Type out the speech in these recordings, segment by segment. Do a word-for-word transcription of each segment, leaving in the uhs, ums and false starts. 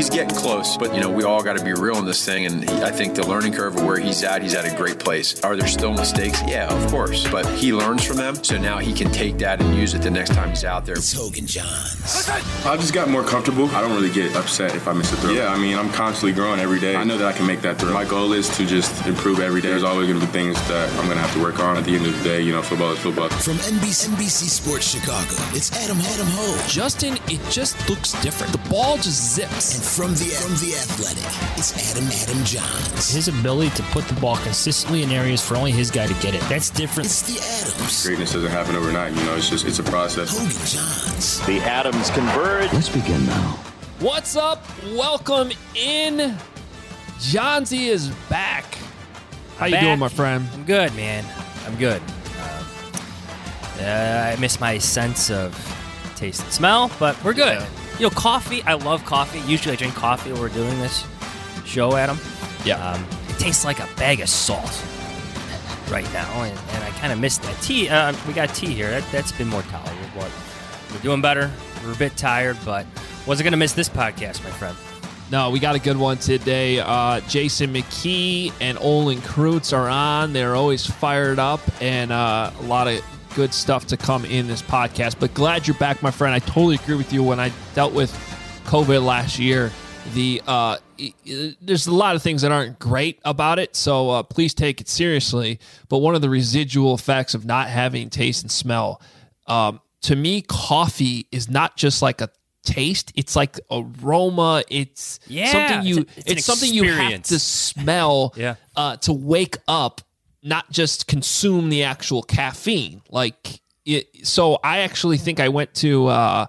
he's getting close. But, you know, we all got to be real in this thing. And he, I think the learning curve of where he's at, he's at a great place. Are there still mistakes? Yeah, of course. But he learns from them. So now he can take that and use it the next time he's out there. It's Hogan Johns. I've just got more comfortable. I don't really get upset if I miss a throw. Yeah, I mean, I'm constantly growing every day. I know that I can make that throw. My goal is to just improve every day. There's always going to be things that I'm going to have to work on. At the end of the day, you know, football is football. From N B C, N B C Sports Chicago, it's Adam Adam Ho. Justin, it just looks different. The ball just zips. And from the from the Athletic, it's Adam Adam Johns. His ability to put the ball consistently in areas for only his guy to get it. That's different. It's the Adams. Greatness doesn't happen overnight. You know, it's just it's a process. Hogan Johns. The Adams converge. Let's begin now. What's up? Welcome in. Johnsy is back. How I'm you back. doing, my friend? I'm good, man. I'm good. Uh, uh, I miss my sense of taste and smell, but we're good. Yeah. You know, coffee. I love coffee. Usually I drink coffee when we're doing this show, Adam. Yeah. Um, it tastes like a bag of salt right now, and, and I kind of miss that. Tea. Uh, we got tea here. That, that's been more tolerable, but we're doing better. We're a bit tired, but wasn't going to miss this podcast, my friend. No, we got a good one today. Uh, Jason McKee and Olin Kreutz are on. They're always fired up, and uh, a lot of good stuff to come in this podcast. But glad you're back, my friend. I totally agree with you. When I dealt with COVID last year, the uh, it, it, there's a lot of things that aren't great about it, so uh, please take it seriously. But one of the residual effects of not having taste and smell, um, to me, coffee is not just like a taste, it's like aroma. It's yeah, something you it's, it's, it's something you have to smell yeah. uh, to wake up, not just consume the actual caffeine. Like it, so I actually think I went to uh,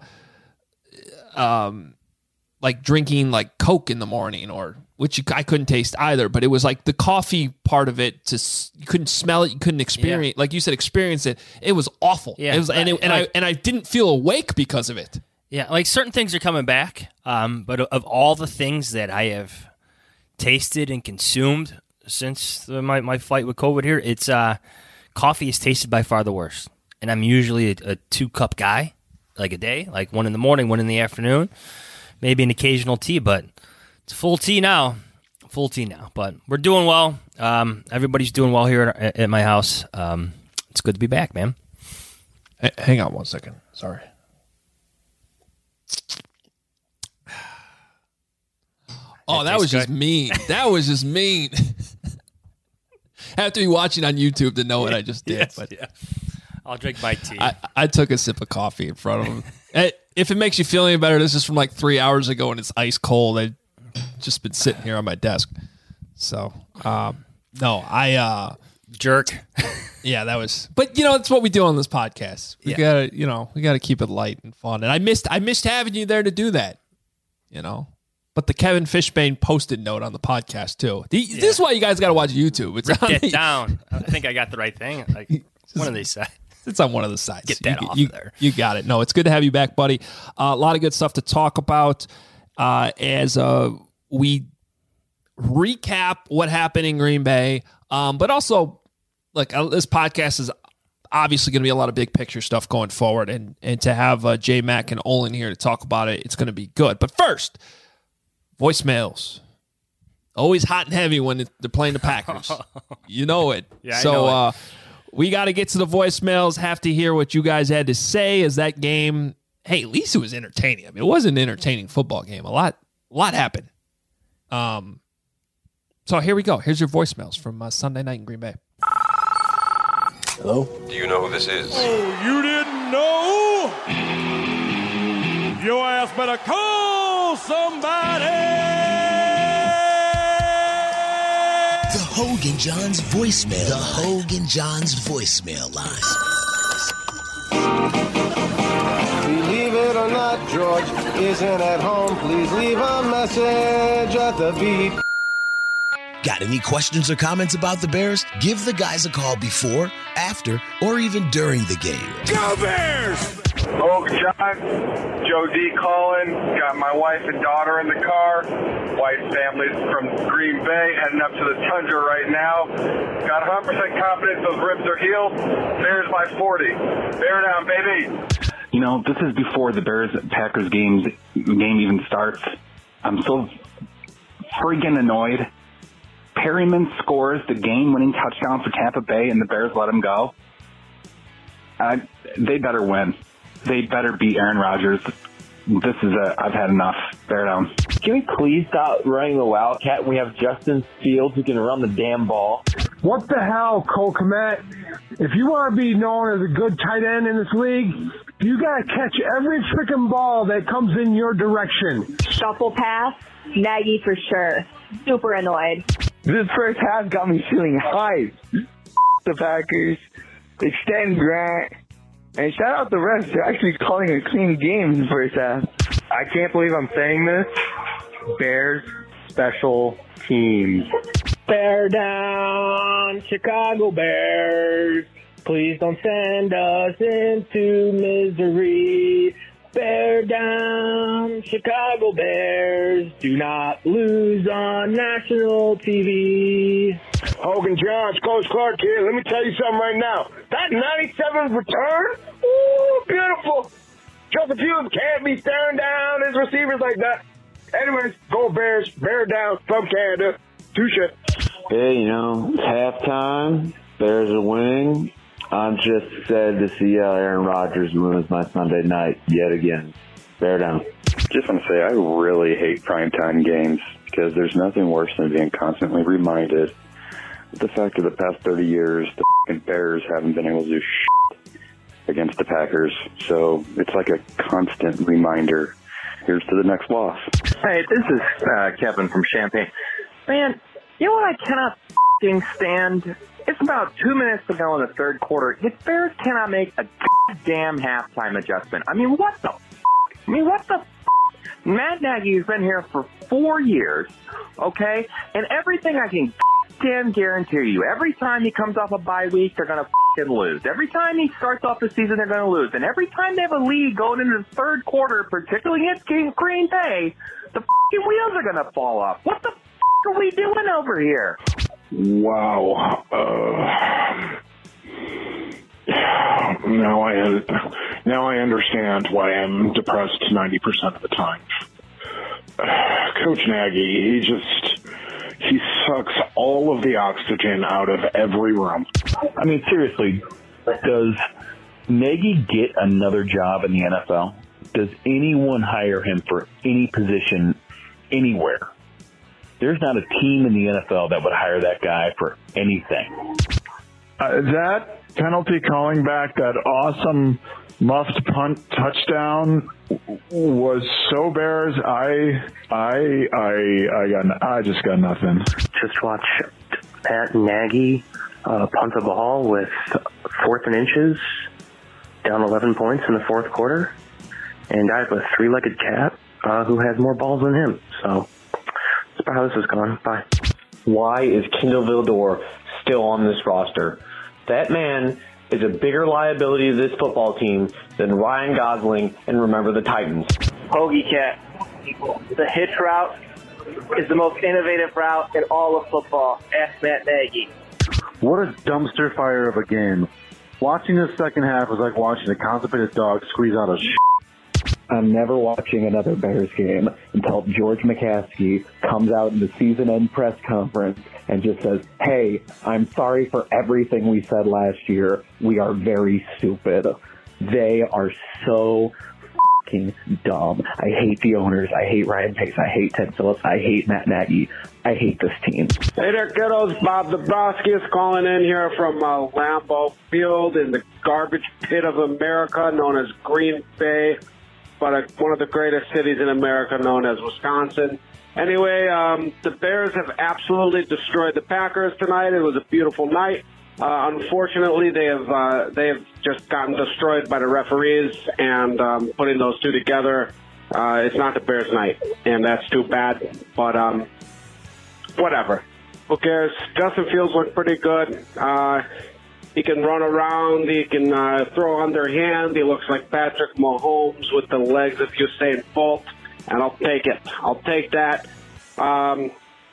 um like drinking like Coke in the morning, or which you, I couldn't taste either, but it was like the coffee part of it. To you couldn't smell it, you couldn't experience, yeah. like you said, experience it. It was awful. Yeah, it was, and it, and like, I and I didn't feel awake because of it. Yeah, like certain things are coming back, um, but of all the things that I have tasted and consumed since the, my, my fight with COVID here, it's uh, coffee is tasted by far the worst. And I'm usually a, a two-cup guy, like a day, like one in the morning, one in the afternoon, maybe an occasional tea, but it's full tea now, full tea now. But we're doing well. Um, everybody's doing well here at, at my house. Um, it's good to be back, man. Hey, hang on one second. Sorry. Oh, that, that was good. just mean. That was just mean. I have to be watching on YouTube to know what I just did. Yes, but yeah. I'll drink my tea. I, I took a sip of coffee in front of him. Hey, if it makes you feel any better, this is from like three hours ago and it's ice cold. I've just been sitting here on my desk. So, um, no, I... Uh, Jerk. Yeah, that was... But, you know, it's what we do on this podcast. We yeah. gotta, you know, we gotta keep it light and fun. And I missed I missed having you there to do that, you know? But the Kevin Fishbane posted note on the podcast, too. The, yeah. This is why you guys got to watch YouTube. It's Get the, down. I think I got the right thing. Like one of these sides. It's on one of the sides. Get that you, off you, of there. You got it. No, it's good to have you back, buddy. Uh, a lot of good stuff to talk about uh, as uh, we recap what happened in Green Bay. Um, but also, like, uh, this podcast is obviously going to be a lot of big picture stuff going forward. And, and to have uh, J Mac and Olin here to talk about it, it's going to be good. But first... voicemails. Always hot and heavy when they're playing the Packers. You know it. Yeah, so I know uh, it. we got to get to the voicemails. Have to hear what you guys had to say as that game. Hey, at least it was entertaining. I mean, it was an entertaining football game. A lot, a lot happened. Um. So here we go. Here's your voicemails from uh, Sunday night in Green Bay. Hello? Do you know who this is? Oh, you didn't know? Your ass better call somebody! The Hogan Johns voicemail. The Hogan Johns voicemail line. Believe it or not, George isn't at home. Please leave a message at the beep. Got any questions or comments about the Bears? Give the guys a call before, after, or even during the game. Go Bears! Oak John, Joe D calling. Got my wife and daughter in the car. Wife's family's from Green Bay, heading up to the Tundra right now. Got one hundred percent confidence those ribs are healed. Bears by forty. Bear down, baby. You know, this is before the Bears-Packers game game even starts. I'm so freaking annoyed. Perryman scores the game-winning touchdown for Tampa Bay, and the Bears let him go. I, they better win. They better beat Aaron Rodgers. This is a, I've had enough. Bear down. Can we please stop running the Wildcat? We have Justin Fields who can run the damn ball. What the hell, Cole Kmet? If you want to be known as a good tight end in this league, you got to catch every freaking ball that comes in your direction. Shuffle pass, Nagy for sure. Super annoyed. This first half got me feeling hyped. The Packers, extend Grant, and shout out the refs for actually calling a clean game in the first half. I can't believe I'm saying this. Bears special teams. Bear down, Chicago Bears. Please don't send us into misery. Bear down, Chicago Bears. Do not lose on national T V. Hogan Johns, Coach Clark here. Let me tell you something right now. That ninety-seven return, ooh, beautiful. Justin Fields can't be staring down his receivers like that. Anyways, go Bears. Bear down from Canada. Touche. Hey, you know, it's halftime. Bears are winning. I'm just sad to see how Aaron Rodgers ruins my Sunday night yet again. Bear down. Just want to say I really hate primetime games because there's nothing worse than being constantly reminded of the fact of the past thirty years the f***ing Bears haven't been able to do shit against the Packers. So it's like a constant reminder. Here's to the next loss. Hey, this is uh, Kevin from Champaign. Man, you know what I cannot f***ing stand? It's about two minutes to go in the third quarter. The Bears cannot make a goddamn halftime adjustment. I mean, what the f***? I mean, what the f***? Matt Nagy has been here for four years, okay? And everything I can goddamn guarantee you, every time he comes off a bye week, they're going to f***ing lose. Every time he starts off the season, they're going to lose. And every time they have a lead going into the third quarter, particularly against Green Bay, the f***ing wheels are going to fall off. What the f*** are we doing over here? Wow. Uh, now I now I understand why I'm depressed ninety percent of the time. Uh, Coach Nagy, he just he sucks all of the oxygen out of every room. I mean, seriously, does Nagy get another job in the N F L? Does anyone hire him for any position anywhere? There's not a team in the N F L that would hire that guy for anything. Uh, that penalty calling back, that awesome muffed punt touchdown was so Bears. I, I, I, I got, I just got nothing. Just watch Pat Nagy uh, punt the ball with fourth and inches, down eleven points in the fourth quarter, and I have a three-legged cat uh, who has more balls than him. So. That's about how this is going. Bye. Why is Kindle Vildor still on this roster? That man is a bigger liability to this football team than Ryan Gosling and Remember the Titans. Hoagie Cat. The hitch route is the most innovative route in all of football. Ask Matt Nagy. What a dumpster fire of a game. Watching the second half was like watching a constipated dog squeeze out a sh**. I'm never watching another Bears game until George McCaskey comes out in the season-end press conference and just says, hey, I'm sorry for everything we said last year. We are very stupid. They are so fucking dumb. I hate the owners. I hate Ryan Pace. I hate Ted Phillips. I hate Matt Nagy. I hate this team. Hey there, kiddos. Bob Dabrowski is calling in here from uh, Lambeau Field in the garbage pit of America known as Green Bay. But uh, one of the greatest cities in America known as Wisconsin. Anyway, um, the Bears have absolutely destroyed the Packers tonight. It was a beautiful night. Uh, unfortunately, they have uh, they have just gotten destroyed by the referees, and um, putting those two together, uh, it's not the Bears' night, and that's too bad. But um, whatever. Who cares? Justin Fields looked pretty good. Uh, He can run around. He can uh, throw underhand. He looks like Patrick Mahomes with the legs of Usain Bolt, and I'll take it. I'll take that. Um,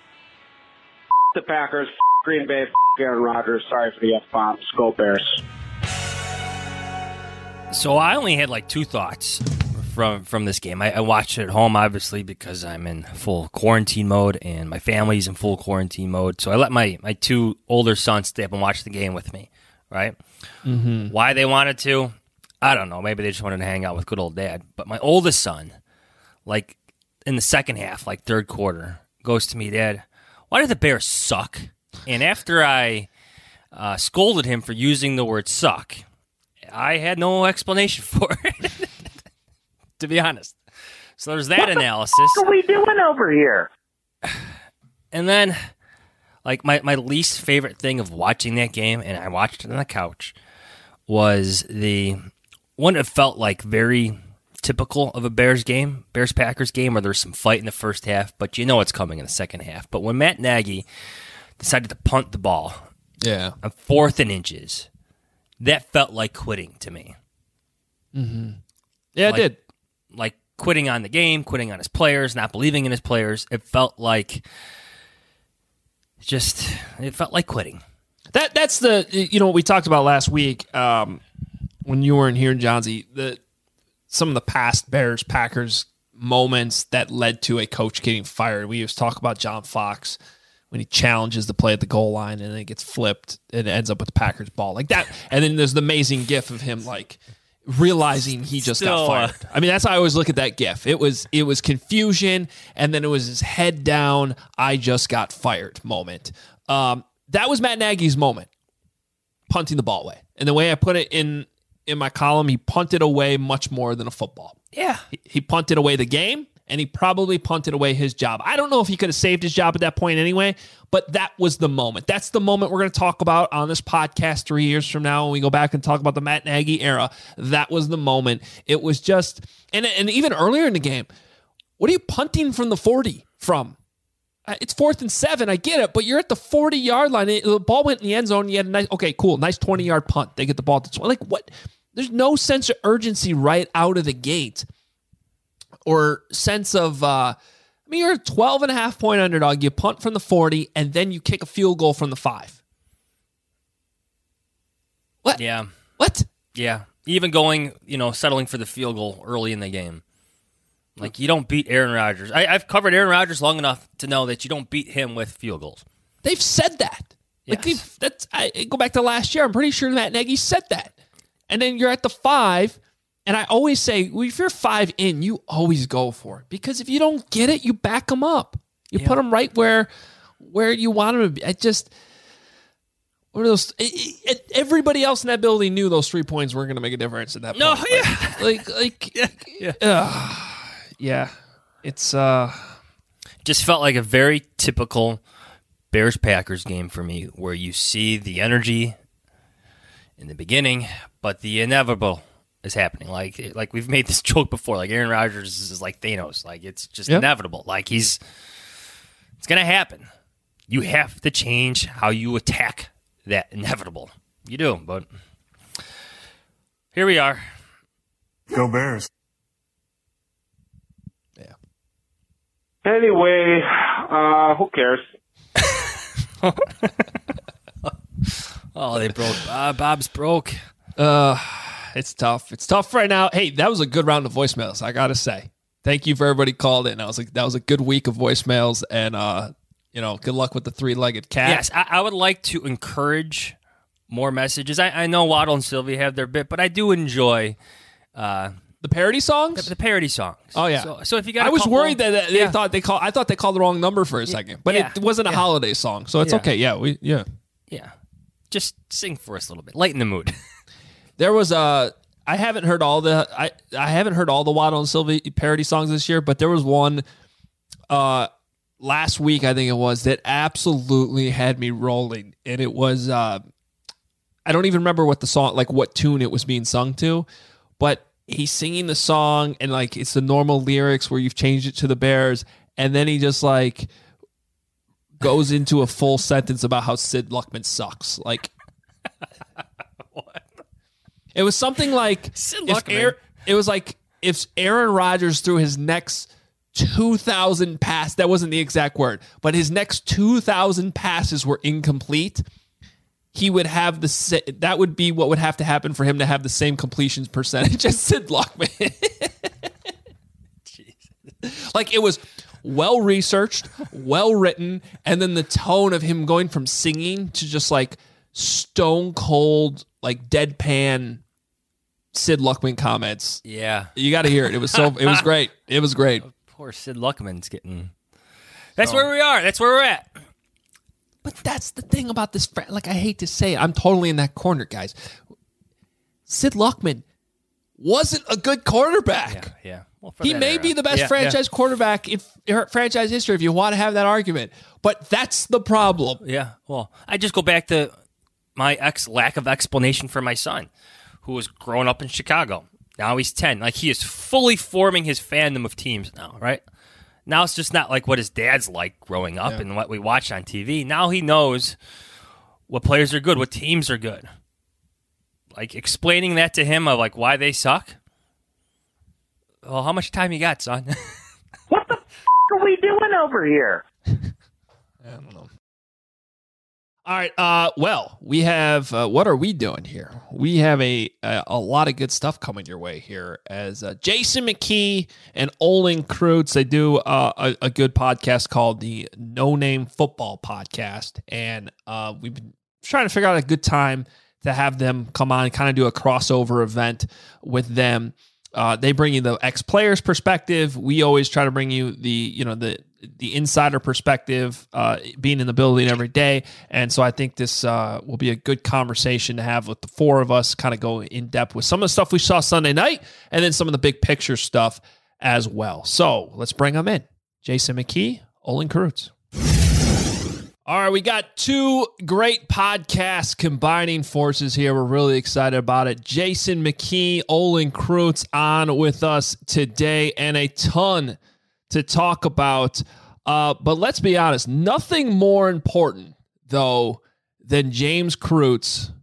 the Packers, Green Bay, Aaron Rodgers. Sorry for the F-bombs. Go Bears. So I only had like two thoughts from from this game. I, I watched it at home, obviously, because I'm in full quarantine mode and my family's in full quarantine mode. So I let my, my two older sons stay up and watch the game with me, right? Mm-hmm. Why they wanted to, I don't know. Maybe they just wanted to hang out with good old dad. But my oldest son, like in the second half, like third quarter, goes to me, Dad, why did the Bears suck? And after I uh, scolded him for using the word suck, I had no explanation for it, to be honest. So there's that what analysis. What are we doing over here? And then, like, my, my least favorite thing of watching that game, and I watched it on the couch, was the one that felt like very typical of a Bears game, Bears-Packers game, where there's some fight in the first half, but you know what's coming in the second half. But when Matt Nagy decided to punt the ball yeah. on fourth and inches, that felt like quitting to me. Mm-hmm. Yeah, like, it did. Like quitting on the game, quitting on his players, not believing in his players. It felt like just, it felt like quitting. That That's the, you know, what we talked about last week um, when you weren't here, Johnsy, the, some of the past Bears-Packers moments that led to a coach getting fired. We used to talk about John Fox when he challenges the play at the goal line and then it gets flipped and it ends up with the Packers ball like that. And then there's the amazing gif of him like realizing he just Still, got fired. I mean, that's how I always look at that gif. It was it was confusion and then it was his head down, I just got fired moment. Um, that was Matt Nagy's moment, punting the ball away. And the way I put it in in my column, he punted away much more than a football. Yeah. He, he punted away the game. And he probably punted away his job. I don't know if he could have saved his job at that point anyway, but that was the moment. That's the moment we're going to talk about on this podcast three years from now when we go back and talk about the Matt Nagy era. That was the moment. It was just, and, and even earlier in the game, what are you punting from the forty from? Uh, it's fourth and seven. I get it, but you're at the forty-yard line. It, the ball went in the end zone. You had a nice, okay, cool, nice twenty-yard punt. They get the ball to twenty. Like what? There's no sense of urgency right out of the gate. Or sense of, uh, I mean, you're a twelve and a half point underdog. You punt from the forty, and then you kick a field goal from the five. What? Yeah. What? Yeah. Even going, you know, settling for the field goal early in the game. Like, you don't beat Aaron Rodgers. I, I've covered Aaron Rodgers long enough to know that you don't beat him with field goals. They've said that. Yes. Like they've, that's, I go back to last year. I'm pretty sure Matt Nagy said that. And then you're at the five. And I always say, well, if you're five in, you always go for it. Because if you don't get it, you back them up. You yeah. put them right where where you want them to be. I just, what are those? It, it, everybody else in that building knew those three points weren't going to make a difference at that no, point. No, yeah. Like, like, yeah. Yeah. Uh, yeah. It's, uh, just felt like a very typical Bears-Packers game for me, where you see the energy in the beginning, but the inevitable is happening. Like like we've made this joke before. Like Aaron Rodgers is like Thanos. Like it's just yep. inevitable. Like he's it's gonna happen. You have to change how you attack that inevitable. You do, but here we are. Go Bears. Yeah. Anyway, uh, who cares? Oh, they broke. Uh, Bob's broke. Uh, it's tough. It's tough right now. Hey, that was a good round of voicemails, I gotta say. Thank you for everybody called in. That was like that was a good week of voicemails, and uh, you know, good luck with the three-legged cat. Yes, I, I would like to encourage more messages. I, I know Waddle and Sylvia have their bit, but I do enjoy uh, the parody songs. The, the parody songs. Oh yeah. So, so if you got, I was couple, worried that they yeah. thought they called. I thought they called the wrong number for a second, but yeah. it wasn't a yeah. holiday song, so it's yeah. okay. Yeah, we yeah yeah. Just sing for us a little bit, lighten the mood. There was a. I haven't heard all the I, I haven't heard all the Waddle and Sylvie parody songs this year, but there was one uh, last week, I think it was, that absolutely had me rolling, and it was uh, I don't even remember what the song, like what tune it was being sung to, but he's singing the song and like it's the normal lyrics where you've changed it to the Bears, and then he just like goes into a full sentence about how Sid Luckman sucks, like. What? It was something like Sid if Luckman. Aaron, it was like if Aaron Rodgers threw his next two thousand pass, that wasn't the exact word, but his next two thousand passes were incomplete, he would have the that would be what would have to happen for him to have the same completions percentage as Sid Luckman. Like, it was well researched, well written, and then the tone of him going from singing to just like stone cold, like deadpan Sid Luckman comments. Yeah, you got to hear it. It was so. It was great. It was great. Poor Sid Luckman's getting. That's Oh. where we are. That's where we're at. But that's the thing about this. fr- Like, I hate to say it, I'm totally in that corner, guys. Sid Luckman wasn't a good quarterback. Yeah, yeah. Well, for He that may era. be the best Yeah, franchise yeah. quarterback in f- franchise history if you want to have that argument. But that's the problem. Yeah. Well, I just go back to my ex lack of explanation for my son, who was growing up in Chicago. Now he's ten. Like, he is fully forming his fandom of teams now, right? Now it's just not like what his dad's like growing up Yeah. and what we watched on T V. Now he knows what players are good, what teams are good. Like, explaining that to him of like why they suck. Well, how much time you got, son? What the f- are we doing over here? I don't know. All right. Uh, well, we have. Uh, what are we doing here? We have a a, a lot of good stuff coming your way here. As uh, Jason McKee and Olin Kreutz, they do uh, a, a good podcast called the No Name Football Podcast, and uh, we've been trying to figure out a good time to have them come on and kind of do a crossover event with them. Uh, they bring you the ex-players perspective. We always try to bring you the, you know, the the insider perspective, uh, being in the building every day. And so I think this uh, will be a good conversation to have with the four of us, kind of go in depth with some of the stuff we saw Sunday night and then some of the big picture stuff as well. So let's bring them in. Jason McKee, Olin Kreutz. All right, we got two great podcasts combining forces here. We're really excited about it. Jason McKee, Olin Kreutz on with us today, and a ton to talk about. Uh, but let's be honest, nothing more important, though, than James Kreutz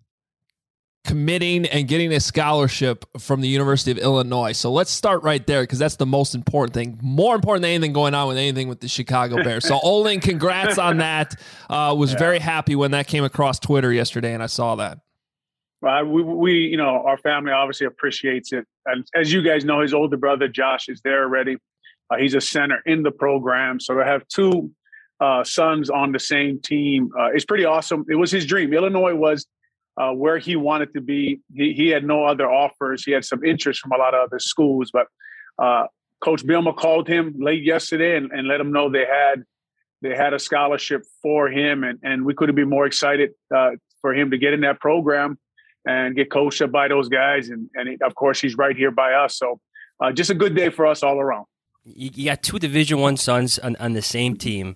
committing and getting a scholarship from the University of Illinois. So let's start right there, because that's the most important thing. More important than anything going on with anything with the Chicago Bears. So Olin, congrats on that. Uh, was Yeah. very happy when that came across Twitter yesterday, and I saw that. Uh, we, we, you know, our family obviously appreciates it. And as you guys know, his older brother, Josh, is there already. Uh, he's a center in the program. So to have two uh, sons on the same team uh, is pretty awesome. It was his dream. Illinois was uh, where he wanted to be. He, he had no other offers. He had some interest from a lot of other schools. But uh, Coach Bielema called him late yesterday and, and let him know they had they had a scholarship for him. And, and we couldn't be more excited uh, for him to get in that program and get coached up by those guys. And, and he, of course, he's right here by us. So uh, just a good day for us all around. You, you got two Division One sons on, on the same team.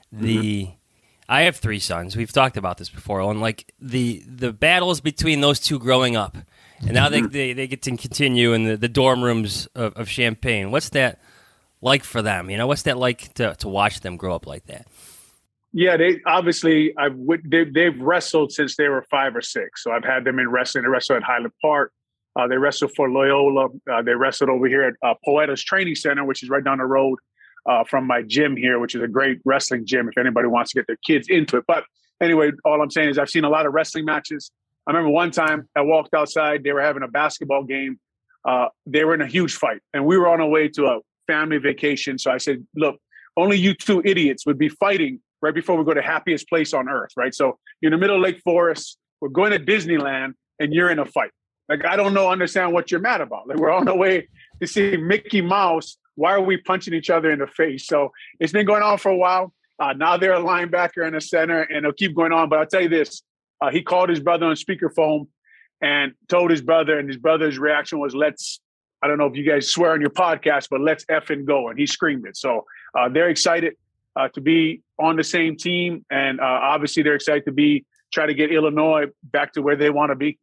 The mm-hmm. I have three sons. We've talked about this before. And like the the battles between those two growing up, and now they, they, they get to continue in the, the dorm rooms of, of Champaign. What's that like for them? You know, what's that like to, to watch them grow up like that? Yeah, they obviously I've they, they've wrestled since they were five or six. So I've had them in wrestling. They wrestled at Highland Park. Uh, they wrestled for Loyola. Uh, they wrestled over here at uh, Poeta's Training Center, which is right down the road uh, from my gym here, which is a great wrestling gym if anybody wants to get their kids into it. But anyway, all I'm saying is I've seen a lot of wrestling matches. I remember one time I walked outside. They were having a basketball game. Uh, they were in a huge fight, and we were on our way to a family vacation. So I said, look, only you two idiots would be fighting right before we go to happiest place on earth, right? So you're in the middle of Lake Forest. We're going to Disneyland, and you're in a fight. Like, I don't know, understand what you're mad about. Like, we're on the way to see Mickey Mouse. Why are we punching each other in the face? So it's been going on for a while. Uh, now they're a linebacker and a center, and it'll keep going on. But I'll tell you this. Uh, he called his brother on speakerphone and told his brother, and his brother's reaction was, let's, I don't know if you guys swear on your podcast, but let's effing go. And he screamed it. So uh, they're excited uh, to be on the same team. And uh, obviously they're excited to be, try to get Illinois back to where they want to be.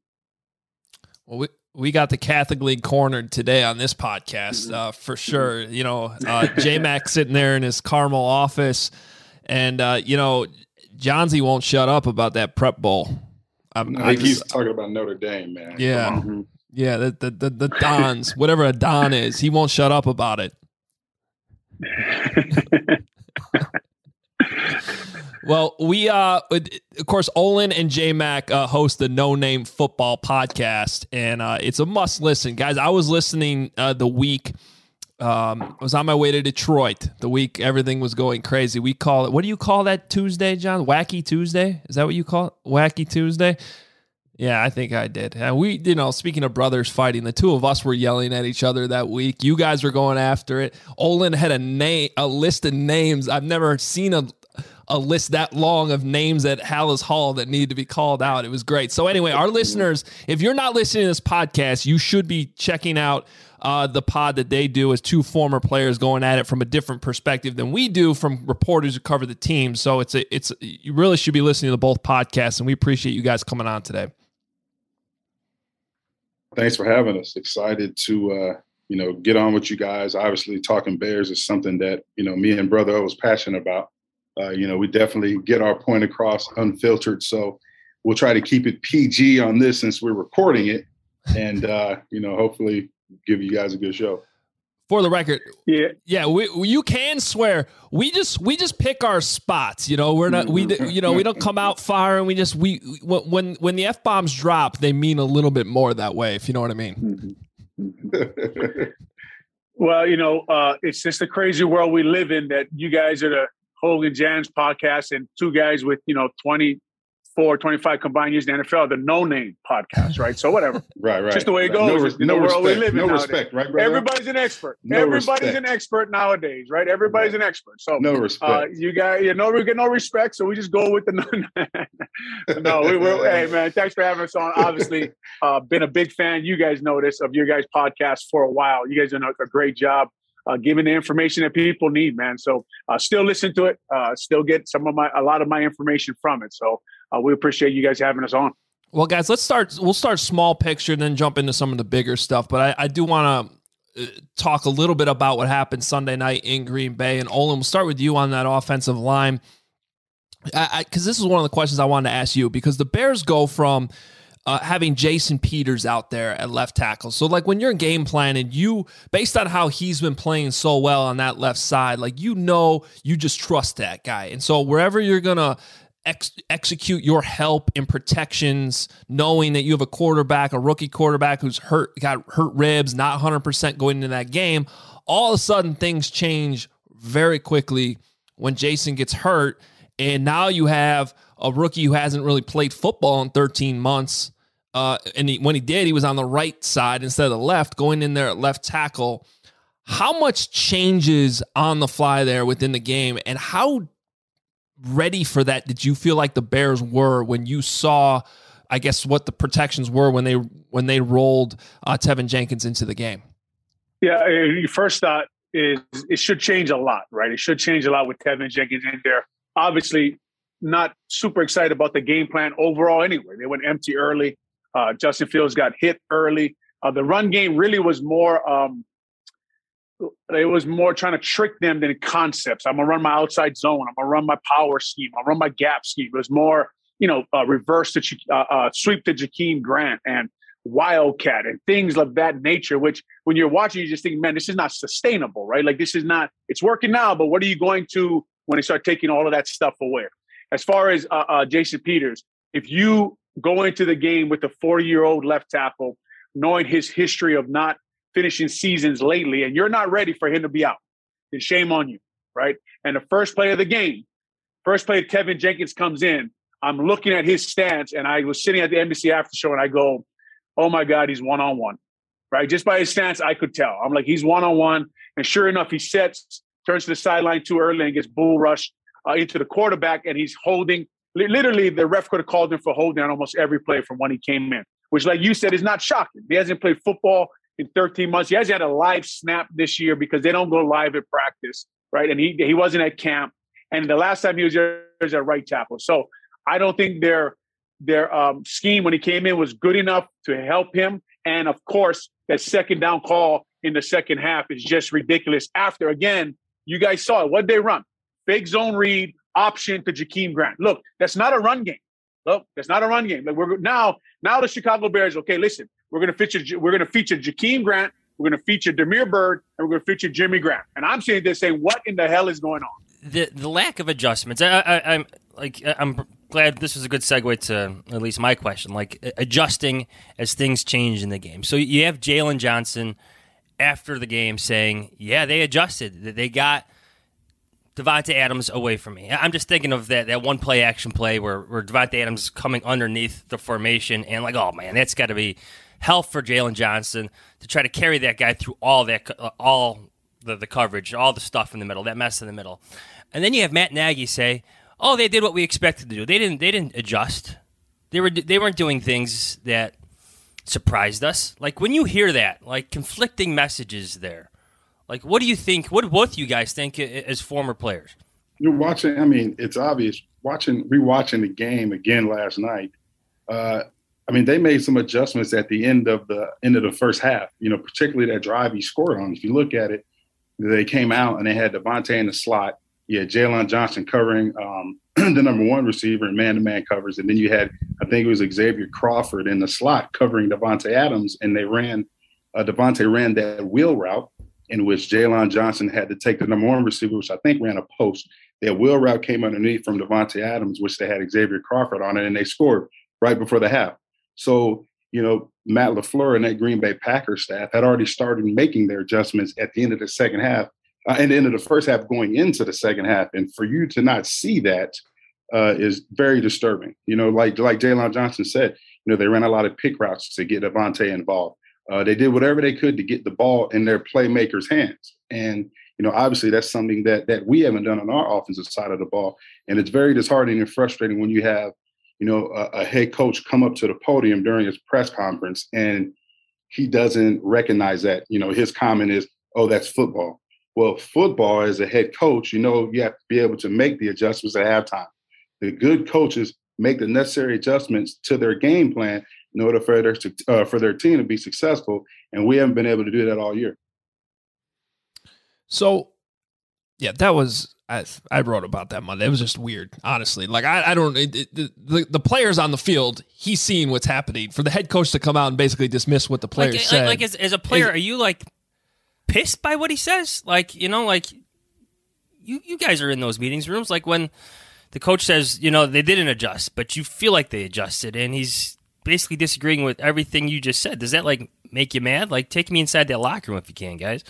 Well, we, we got the Catholic League cornered today on this podcast, uh, for sure. You know, uh, J-Mac sitting there in his Carmel office, and, uh, you know, Johnsy won't shut up about that prep bowl. I'm, I I think just, he's talking about Notre Dame, man. yeah. Yeah, the, the, the, the Dons, whatever a Don is, he won't shut up about it. Well, we, uh, of course, Olin and J-Mac uh, host the No Name Football Podcast, and uh, it's a must listen. Guys, I was listening uh, the week Um, I was on my way to Detroit the week everything was going crazy. We call it, what do you call that Tuesday, John? Wacky Tuesday? Is that what you call it? Wacky Tuesday? Yeah, I think I did. And we, you know, speaking of brothers fighting, the two of us were yelling at each other that week. You guys were going after it. Olin had a name, a list of names. I've never seen a a list that long of names at Hallis Hall that needed to be called out. It was great. So anyway, our listeners, if you're not listening to this podcast, you should be checking out uh, the pod that they do as two former players going at it from a different perspective than we do from reporters who cover the team. So it's a, it's you really should be listening to both podcasts, and we appreciate you guys coming on today. Thanks for having us. Excited to, uh, you know, get on with you guys. Obviously, talking Bears is something that, you know, me and Brother O was passionate about. Uh, you know, we definitely get our point across unfiltered. So we'll try to keep it P G on this since we're recording it and, uh, you know, hopefully give you guys a good show. For the record, yeah, yeah, we, you can swear. We just we just pick our spots. You know, we're not we you know we don't come out firing. We just we when when the F bombs drop, they mean a little bit more that way. If you know what I mean. Well, you know, uh, it's just a crazy world we live in. That you guys are the Hogan Jans podcast and two guys with, you know, twenty-four, twenty-five combined years in the N F L, the no-name podcast, right? So whatever. Right, right. Just the way it right. goes No, in no the world respect. we live in No nowadays. respect, right, brother? Everybody's an expert. No Everybody's respect. an expert nowadays, right? Everybody's an expert. So no respect. Uh, you got you know we get no respect, so we just go with the no. no, we were. Hey man, thanks for having us on. Obviously, uh, been a big fan. You guys know this of your guys' podcast for a while. You guys done a, a great job. Uh, giving the information that people need, man. So uh, still listen to it. Uh, still get some of my, a lot of my information from it. So uh, we appreciate you guys having us on. Well, guys, let's start. We'll start small picture, then jump into some of the bigger stuff. But I, I do want to uh, talk a little bit about what happened Sunday night in Green Bay. And Olin, we'll start with you on that offensive line. Because this is one of the questions I wanted to ask you, because the Bears go from Uh, having Jason Peters out there at left tackle. So, like, when you're game planning, you, based on how he's been playing so well on that left side, like, you know, you just trust that guy. And so wherever you're going to ex- execute your help in protections, knowing that you have a quarterback, a rookie quarterback who's hurt, got hurt ribs, not one hundred percent going into that game, all of a sudden things change very quickly when Jason gets hurt. And now you have a rookie who hasn't really played football in thirteen months. Uh, and he, when he did, he was on the right side instead of the left, going in there at left tackle. How much changes on the fly there within the game? And how ready for that did you feel like the Bears were when you saw, I guess, what the protections were when they when they rolled uh, Tevin Jenkins into the game? Yeah, your first thought is it should change a lot, right? It should change a lot with Tevin Jenkins in there. Obviously, not super excited about the game plan overall anyway. They went empty early. Uh, Justin Fields got hit early. Uh, the run game really was more um, – it was more trying to trick them than concepts. I'm going to run my outside zone. I'm going to run my power scheme. I'll run my gap scheme. It was more, you know, uh, reverse to uh, uh, sweep to Jakeem Grant and Wildcat and things of that nature, which when you're watching, you just think, man, this is not sustainable, right? Like this is not – it's working now, but what are you going to when they start taking all of that stuff away? As far as uh, uh, Jason Peters, if you go into the game with a forty-year-old left tackle, knowing his history of not finishing seasons lately, and you're not ready for him to be out, then shame on you, right? And the first play of the game, first play Tevin Jenkins comes in, I'm looking at his stance, and I was sitting at the N B C after show, and I go, oh, my God, he's one-on-one, right? Just by his stance, I could tell. I'm like, he's one-on-one, and sure enough, he sets, turns to the sideline too early and gets bull rushed Uh, into the quarterback, and he's holding. Literally, the ref could have called him for holding on almost every play from when he came in, which, like you said, is not shocking. He hasn't played football in thirteen months. He hasn't had a live snap this year because they don't go live at practice, right? And he he wasn't at camp. And the last time he was there, he was at right tackle. So I don't think their their um, scheme when he came in was good enough to help him. And, of course, that second down call in the second half is just ridiculous. After, again, you guys saw it. What did they run? Fake zone read, option to Jakeem Grant. Look, that's not a run game. Look, that's not a run game. Like we're now, now the Chicago Bears. Okay, listen, we're gonna feature, we're gonna feature Jakeem Grant, we're gonna feature Damiere Byrd, and we're gonna feature Jimmy Graham. And I'm sitting there saying, what in the hell is going on? The the lack of adjustments. I, I, I'm like I'm glad this was a good segue to at least my question. Like adjusting as things change in the game. So you have Jalen Johnson after the game saying, yeah, they adjusted. They got Davante Adams away from me. I'm just thinking of that that one play action play where, where Davante Adams is coming underneath the formation and like, oh, man, that's got to be hell for Jalen Johnson to try to carry that guy through all that, uh, all the, the coverage, all the stuff in the middle, that mess in the middle. And then you have Matt Nagy say, oh, they did what we expected to do. They didn't They didn't adjust. They, were, they weren't doing things that surprised us. Like, when you hear that, like, conflicting messages there, like, what do you think? What do both you guys think as former players? You're watching. I mean, it's obvious. Watching, rewatching the game again last night. Uh, I mean, they made some adjustments at the end of the end of the first half. You know, particularly that drive he scored on. If you look at it, they came out and they had Davante in the slot. You had Jalen Johnson covering um, the number one receiver in man-to-man covers, and then you had, I think it was Xavier Crawford in the slot covering Davante Adams, and they ran. Uh, Davante ran that wheel route, in which Jalen Johnson had to take the number one receiver, which I think ran a post. Their wheel route came underneath from Davante Adams, which they had Xavier Crawford on it, and they scored right before the half. So, you know, Matt LaFleur and that Green Bay Packers staff had already started making their adjustments at the end of the second half, uh, and the end of the first half going into the second half. And for you to not see that uh, is very disturbing. You know, like like Jalen Johnson said, you know, they ran a lot of pick routes to get Davante involved. Uh, they did whatever they could to get the ball in their playmakers' hands. And, you know, obviously that's something that that we haven't done on our offensive side of the ball. And it's very disheartening and frustrating when you have, you know, a, a head coach come up to the podium during his press conference and he doesn't recognize that. You know, his comment is, oh, that's football. Well, football, as a head coach, you know, you have to be able to make the adjustments at halftime. The good coaches make the necessary adjustments to their game plan in order for their, uh, for their team to be successful. And we haven't been able to do that all year. So, yeah, that was, I, I wrote about that Monday. It was just weird, honestly. Like, I, I don't, it, it, the, the players on the field, he's seeing what's happening. For the head coach to come out and basically dismiss what the players like, said. Like, like as, as a player, is, are you, like, pissed by what he says? Like, you know, like, you, you guys are in those meetings rooms. Like, when the coach says, you know, they didn't adjust, but you feel like they adjusted, and he's basically disagreeing with everything you just said. Does that, like, make you mad? Like, take me inside that locker room if you can, guys.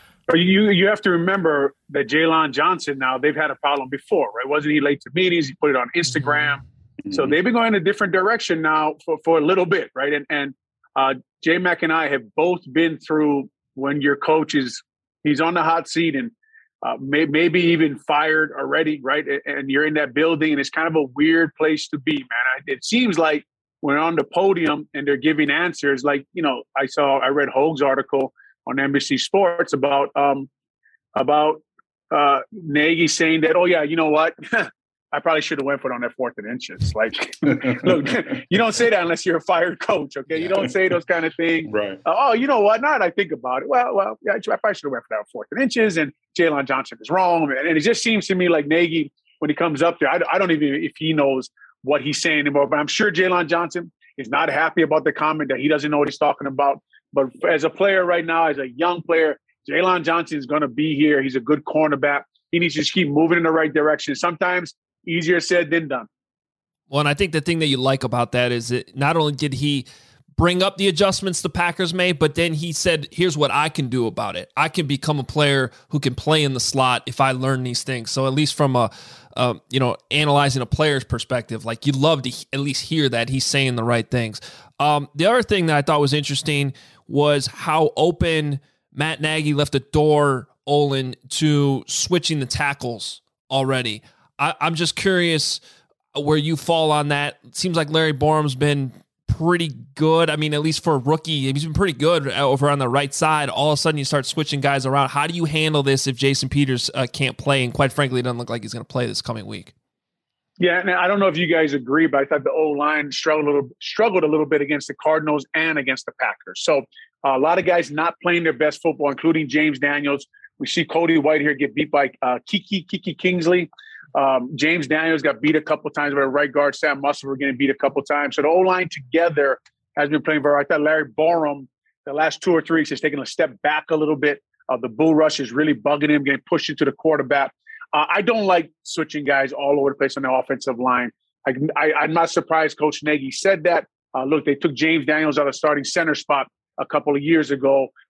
You you have to remember that Jalen Johnson, now they've had a problem before, right? Wasn't he late to meetings? He put it on Instagram. Mm-hmm. So they've been going in a different direction now for, for a little bit, right? And and uh, J-Mac and I have both been through when your coach is, he's on the hot seat and uh, may, maybe even fired already, right? And you're in that building and it's kind of a weird place to be, man. It seems like when on the podium and they're giving answers, like, you know, I saw, I read Hoge's article on N B C Sports about um, about uh, Nagy saying that, oh, yeah, you know what? I probably should have went for it on that fourth and inches. Like, look, you don't say that unless you're a fired coach, okay? You don't say those kind of things. Right. Uh, oh, you know what? Now that I think about it, well, well, yeah, I probably should have went for that fourth and inches, and Jalen Johnson is wrong. And it just seems to me like Nagy, when he comes up there, I, I don't even if he knows what he's saying anymore, but I'm sure Jalen Johnson is not happy about the comment that he doesn't know what he's talking about. But as a player right now, as a young player, Jalen Johnson is going to be here. He's a good cornerback. He needs to just keep moving in the right direction. Sometimes easier said than done. Well, and I think the thing that you like about that is that not only did he bring up the adjustments the Packers made, but then he said, here's what I can do about it. I can become a player who can play in the slot if I learn these things. So at least from a, uh, you know, analyzing a player's perspective, like you love to at least hear that he's saying the right things. Um, the other thing that I thought was interesting was how open Matt Nagy left the door, Olin, to switching the tackles already. I, I'm just curious where you fall on that. It seems like Larry Borum's been pretty good. I mean, at least for a rookie, he's been pretty good over on the right side. All of a sudden, you start switching guys around. How do you handle this if Jason Peters uh, can't play? And quite frankly, it doesn't look like he's going to play this coming week. Yeah, and I don't know if you guys agree, but I thought the O-line struggled a little, struggled a little bit against the Cardinals and against the Packers. So uh, a lot of guys not playing their best football, including James Daniels. We see Cody White here get beat by uh, Kiki Kiki Kingsley. Um, James Daniels got beat a couple times by the right guard. Sam Musselman getting beat a couple times. So the O-line together has been playing very well. I thought Larry Borum, the last two or three weeks, has taken a step back a little bit. Uh, the bull rush is really bugging him, getting pushed into the quarterback. Uh, I don't like switching guys all over the place on the offensive line. I, I, I'm not surprised Coach Nagy said that. Uh, look, they took James Daniels out of starting center spot a couple of years ago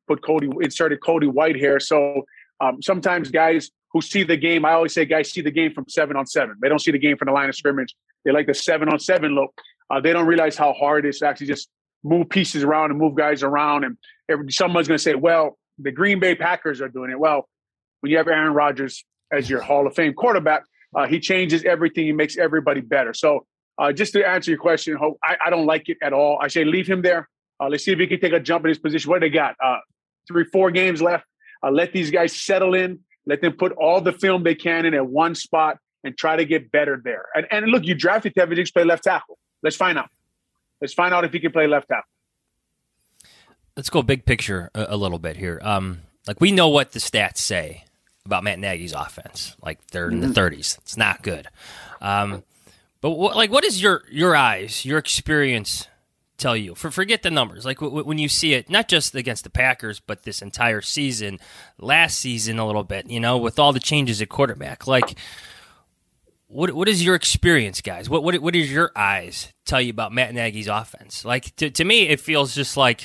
put Cody, inserted Cody Whitehair. So um, sometimes guys who see the game, I always say guys see the game from seven on seven. They don't see the game from the line of scrimmage. They like the seven on seven look. Uh, they don't realize how hard it is to actually just move pieces around and move guys around. And every, someone's going to say, well, the Green Bay Packers are doing it. Well, when you have Aaron Rodgers as your Hall of Fame quarterback, uh, he changes everything. He makes everybody better. So uh, just to answer your question, Hope, I, I don't like it at all. I say leave him there. Uh, let's see if he can take a jump in his position. What do they got? Uh, three, four games left. Uh, let these guys settle in. Let them put all the film they can in at one spot and try to get better there. And, and look, you drafted Tevin Diggs to play left tackle. Let's find out. Let's find out if he can play left tackle. Let's go big picture a, a little bit here. Um, like we know what the stats say about Matt Nagy's offense. Like they're in the thirties. It's not good. Um, but what, like, what is your your eyes, your experience tell you? For forget the numbers. Like w- when you see it, not just against the Packers, but this entire season, last season a little bit. You know, with all the changes at quarterback. Like, what what is your experience, guys? What what what does your eyes tell you about Matt Nagy's offense? Like to to me, it feels just like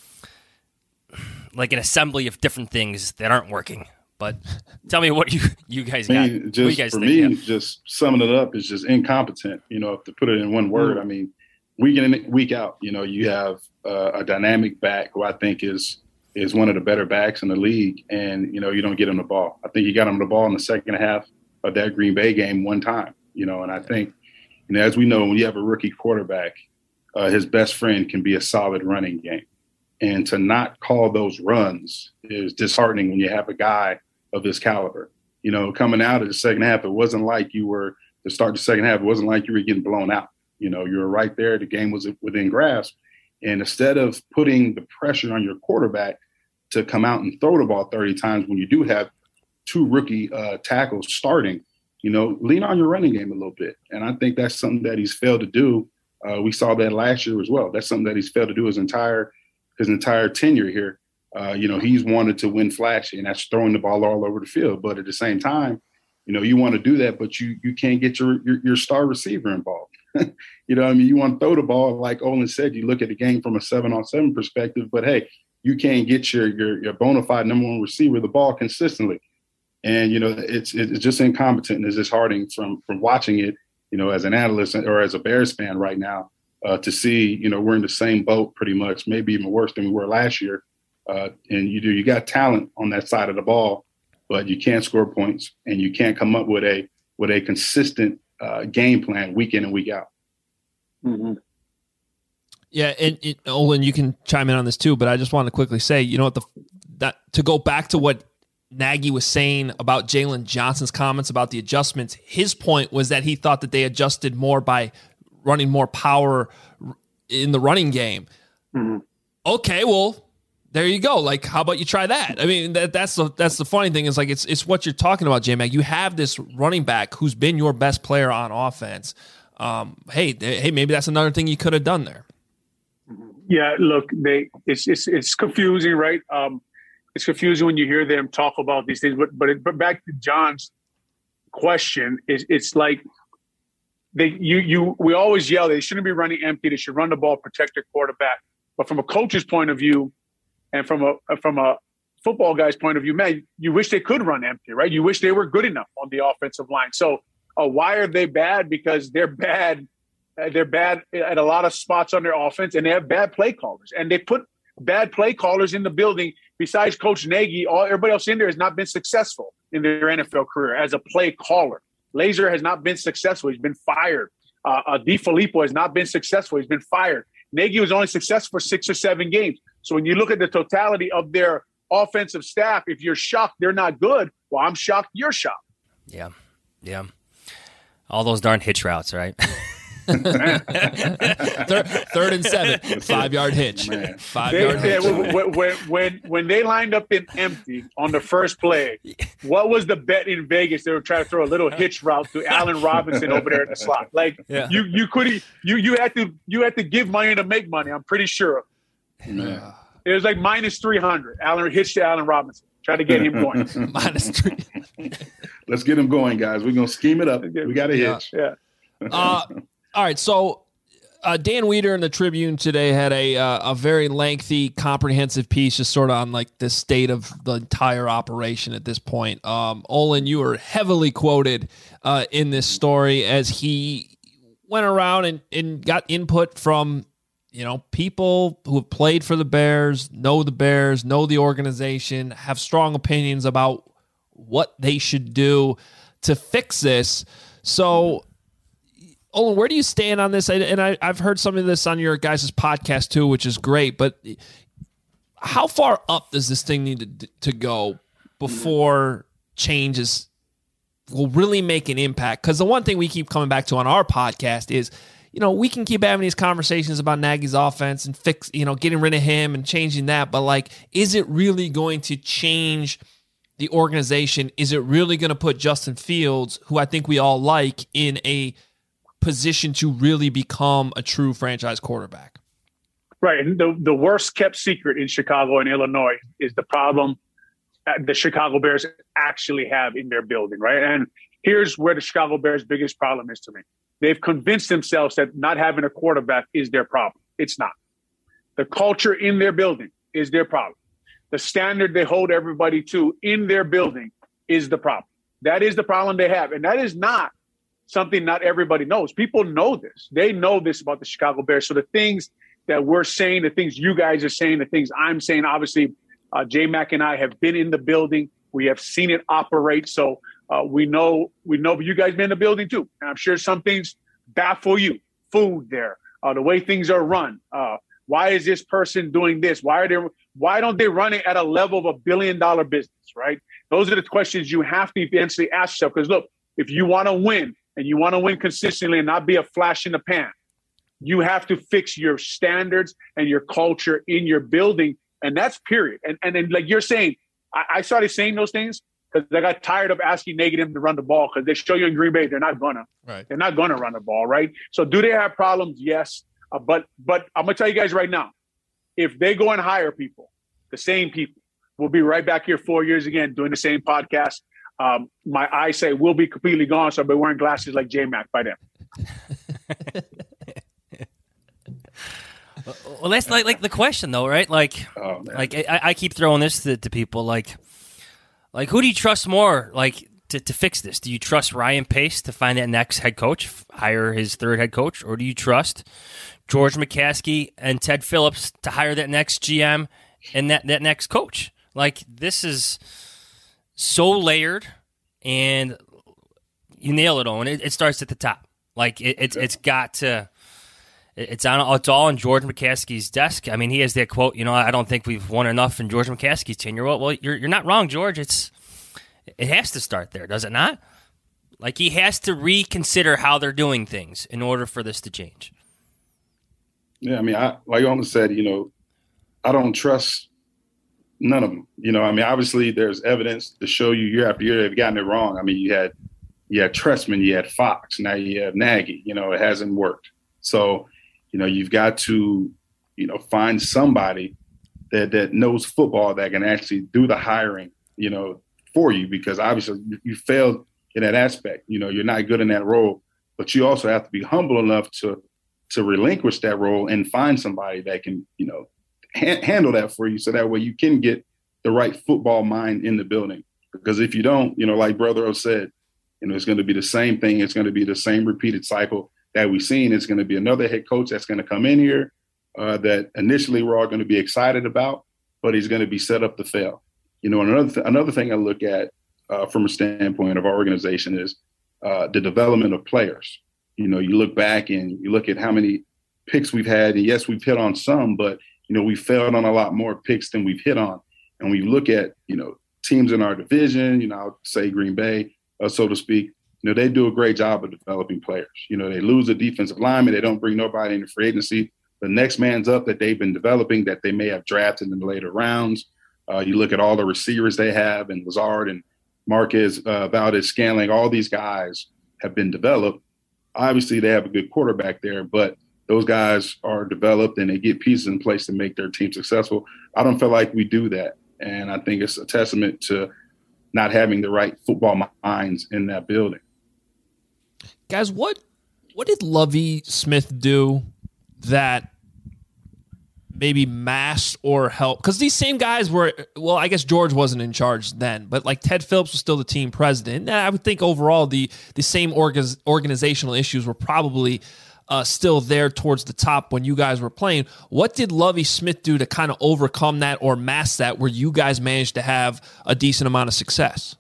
like an assembly of different things that aren't working. But tell me what you you guys got. I mean, just what you guys for think, me, yeah. just summing it up is just incompetent. You know, to put it in one word, I mean, week in and week out, you know, you have uh, a dynamic back who I think is is one of the better backs in the league, and you know, you don't get him the ball. I think you got him the ball in the second half of that Green Bay game one time. You know, and I think, you know, as we know, when you have a rookie quarterback, uh, his best friend can be a solid running game, and to not call those runs is disheartening when you have a guy of this caliber. You know, coming out of the second half, it wasn't like you were to start the second half. It wasn't like you were getting blown out. You know, you were right there. The game was within grasp. And instead of putting the pressure on your quarterback to come out and throw the ball thirty times when you do have two rookie uh, tackles starting, you know, lean on your running game a little bit. And I think that's something that he's failed to do. Uh, we saw that last year as well. That's something that he's failed to do his entire his entire tenure here. Uh, you know, he's wanted to win flashy, and that's throwing the ball all over the field. But at the same time, you know, you want to do that, but you you can't get your your, your star receiver involved. You know what I mean? You want to throw the ball, like Olin said, you look at the game from a seven-on-seven perspective, but, hey, you can't get your your, your bona fide number one receiver the ball consistently. And, you know, it's it's just incompetent and it's disheartening from, from watching it, you know, as an analyst or as a Bears fan right now, uh, to see, you know, we're in the same boat pretty much, maybe even worse than we were last year. Uh, and you do, you got talent on that side of the ball, but you can't score points and you can't come up with a with a consistent uh, game plan week in and week out. Mm-hmm. Yeah, and, and Olin, you can chime in on this too, but I just want to quickly say, you know what, the that to go back to what Nagy was saying about Jalen Johnson's comments about the adjustments, his point was that he thought that they adjusted more by running more power in the running game. Mm-hmm. Okay, well, there you go. Like, how about you try that? I mean, that, that's the that's the funny thing is like it's it's what you're talking about, J-Mag. You have this running back who's been your best player on offense. Um, hey, hey, maybe that's another thing you could have done there. Yeah, look, they it's it's it's confusing, right? Um, it's confusing when you hear them talk about these things. But but it, but back to John's question, is it's like they you you we always yell they shouldn't be running empty. They should run the ball, protect their quarterback. But from a coach's point of view, and from a from a football guy's point of view, man, you wish they could run empty, right? You wish they were good enough on the offensive line. So uh, why are they bad? Because they're bad. Uh, they're bad at a lot of spots on their offense, and they have bad play callers. And they put bad play callers in the building. Besides Coach Nagy, all everybody else in there has not been successful in their N F L career as a play caller. Laser has not been successful. He's been fired. Uh, uh, DiFilippo has not been successful. He's been fired. Nagy was only successful for six or seven games. So when you look at the totality of their offensive staff, if you're shocked they're not good, well, I'm shocked you're shocked. Yeah, yeah. All those darn hitch routes, right? third, third and seven, five-yard hitch. Five-yard they, hitch. They, when, when, when, when they lined up in empty on the first play, what was the bet in Vegas? They were trying to throw a little hitch route to Allen Robinson over there in the slot. Like yeah. you, you could you you had to you had to give money to make money. I'm pretty sure. Man. It was like minus three hundred. Allen hitched to Allen Robinson. Try to get him going. Minus three. Let's get him going, guys. We're gonna scheme it up. We got a yeah. hitch. Yeah. Uh, all right. So Uh, Dan Weeder in the Tribune today had a uh, a very lengthy, comprehensive piece just sort of on like the state of the entire operation at this point. Um, Olin, you were heavily quoted uh, in this story as he went around and, and got input from, you know, people who have played for the Bears, know the Bears, know the organization, have strong opinions about what they should do to fix this. So, Olin, where do you stand on this? And I, I've heard some of this on your guys' podcast too, which is great. But how far up does this thing need to, to go before changes will really make an impact? Because the one thing we keep coming back to on our podcast is, you know, we can keep having these conversations about Nagy's offense and fix, you know, getting rid of him and changing that. But like, is it really going to change the organization? Is it really going to put Justin Fields, who I think we all like, in a position to really become a true franchise quarterback? Right. And the, the worst kept secret in Chicago and Illinois is the problem the Chicago Bears actually have in their building, right? And here's where the Chicago Bears' biggest problem is to me. They've convinced themselves that not having a quarterback is their problem. It's not. The culture in their building is their problem. The standard they hold everybody to in their building is the problem. That is the problem they have. And that is not something not everybody knows. People know this. They know this about the Chicago Bears. So the things that we're saying, the things you guys are saying, the things I'm saying, obviously, uh, J-Mac and I have been in the building. We have seen it operate. So uh, we know, we know you guys been in the building too. And I'm sure some things baffle you. Food there, uh, the way things are run. Uh, why is this person doing this? Why are they, why don't they run it at a level of a billion dollar business, right? Those are the questions you have to eventually ask yourself. Because look, if you want to win, and you want to win consistently and not be a flash in the pan, you have to fix your standards and your culture in your building. And that's period. And and then, like you're saying, I, I started saying those things because I got tired of asking negative to run the ball because they show you in Green Bay, they're not going to. Right. They're not going to run the ball, right? So do they have problems? Yes. Uh, but but I'm going to tell you guys right now, if they go and hire people, the same people, we'll be right back here four years again doing the same podcast. Um, my eyesight will be completely gone, so I'll be wearing glasses like J-Mac by then. Well, that's like like the question, though, right? Like, oh, like I, I keep throwing this to, to people, like, like who do you trust more, like, to, to fix this? Do you trust Ryan Pace to find that next head coach, hire his third head coach, or do you trust George McCaskey and Ted Phillips to hire that next G M and that, that next coach? Like, this is so layered, and you nail it, Owen. It, it starts at the top. Like it, it's it's got to. It's on. It's all on George McCaskey's desk. I mean, he has that quote. You know, I don't think we've won enough in George McCaskey's tenure. Well, well, you're you're not wrong, George. It's it has to start there, does it not? Like he has to reconsider how they're doing things in order for this to change. Yeah, I mean, I, like Owen said, you know, I don't trust none of them. You know, I mean, obviously there's evidence to show you year after year they've gotten it wrong. I mean, you had you had Trestman, you had Fox, now you have Nagy. You know, it hasn't worked. So, you know, you've got to, you know, find somebody that that knows football that can actually do the hiring, you know, for you, because obviously you failed in that aspect. You know, you're not good in that role, but you also have to be humble enough to to relinquish that role and find somebody that can, you know, ha- handle that for you, so that way you can get the right football mind in the building. Because if you don't, you know, like Brother O said, you know, it's going to be the same thing. It's going to be the same repeated cycle that we've seen. It's going to be another head coach that's going to come in here uh, that initially we're all going to be excited about, but he's going to be set up to fail. You know, another th- another thing I look at uh, from a standpoint of our organization is uh, the development of players. You know, you look back and you look at how many picks we've had, and yes, we've hit on some, but, you know, we failed on a lot more picks than we've hit on. And we look at, you know, teams in our division, you know, I'll say Green Bay, uh, so to speak, you know, they do a great job of developing players. You know, they lose a defensive lineman. They don't bring nobody into free agency. The next man's up that they've been developing that they may have drafted in the later rounds. Uh, you look at all the receivers they have, and Lazard and Marquez, uh, Valdez-Scantling, all these guys have been developed. Obviously, they have a good quarterback there, but those guys are developed and they get pieces in place to make their team successful. I don't feel like we do that. And I think it's a testament to not having the right football minds in that building. Guys, what what did Lovie Smith do that maybe masked or helped? Because these same guys were, well, I guess George wasn't in charge then, but like Ted Phillips was still the team president. And I would think overall the the same orga- organizational issues were probably uh, still there towards the top when you guys were playing. What did Lovie Smith do to kind of overcome that or mask that where you guys managed to have a decent amount of success?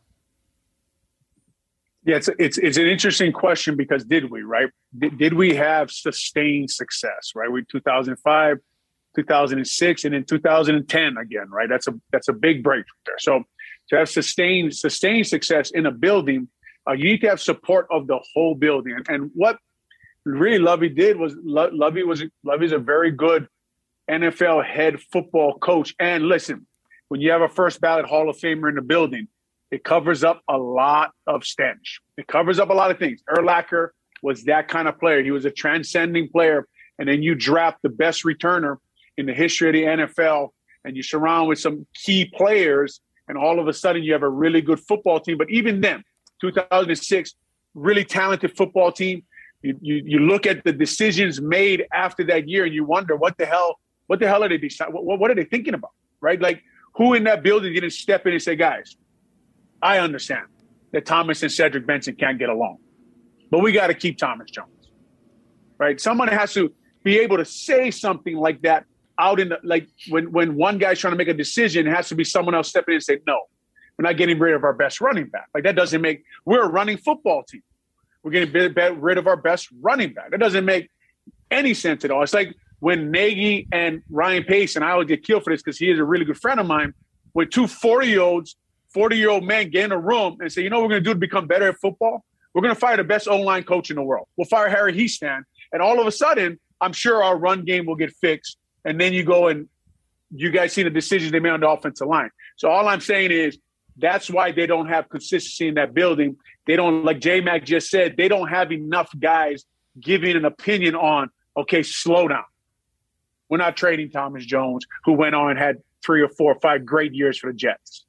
Yeah, it's it's it's an interesting question because did we, right? Did, did we have sustained success, right? We two thousand five, two thousand six, and in two thousand ten again, right? That's a that's a big break there. So to have sustained sustained success in a building, uh, you need to have support of the whole building. And, and what really Lovie did was Lo- Lovie was Lovie's a very good N F L head football coach. And listen, when you have a first ballot Hall of Famer in the building, it covers up a lot of stench. It covers up a lot of things. Urlacher was that kind of player. He was a transcending player. And then you draft the best returner in the history of the N F L, and you surround with some key players, and all of a sudden you have a really good football team. But even then, two thousand six, really talented football team. You, you, you look at the decisions made after that year, and you wonder what the hell, what the hell are they deciding? What, what are they thinking about, right? Like, who in that building didn't step in and say, guys, I understand that Thomas and Cedric Benson can't get along, but we got to keep Thomas Jones, right? Someone has to be able to say something like that out in the, like when, when one guy's trying to make a decision, it has to be someone else stepping in and say, no, we're not getting rid of our best running back. Like that doesn't make, we're a running football team. We're getting rid of our best running back. That doesn't make any sense at all. It's like when Nagy and Ryan Pace, and I always get killed for this because he is a really good friend of mine, when two forty-year-olds, forty-year-old men get in a room and say, you know what we're going to do to become better at football? We're going to fire the best O-line coach in the world. We'll fire Harry Hiestand. And all of a sudden, I'm sure our run game will get fixed. And then you go and you guys see the decisions they made on the offensive line. So all I'm saying is that's why they don't have consistency in that building. They don't, like J-Mac just said, they don't have enough guys giving an opinion on, okay, slow down. We're not trading Thomas Jones, who went on and had three or four or five great years for the Jets.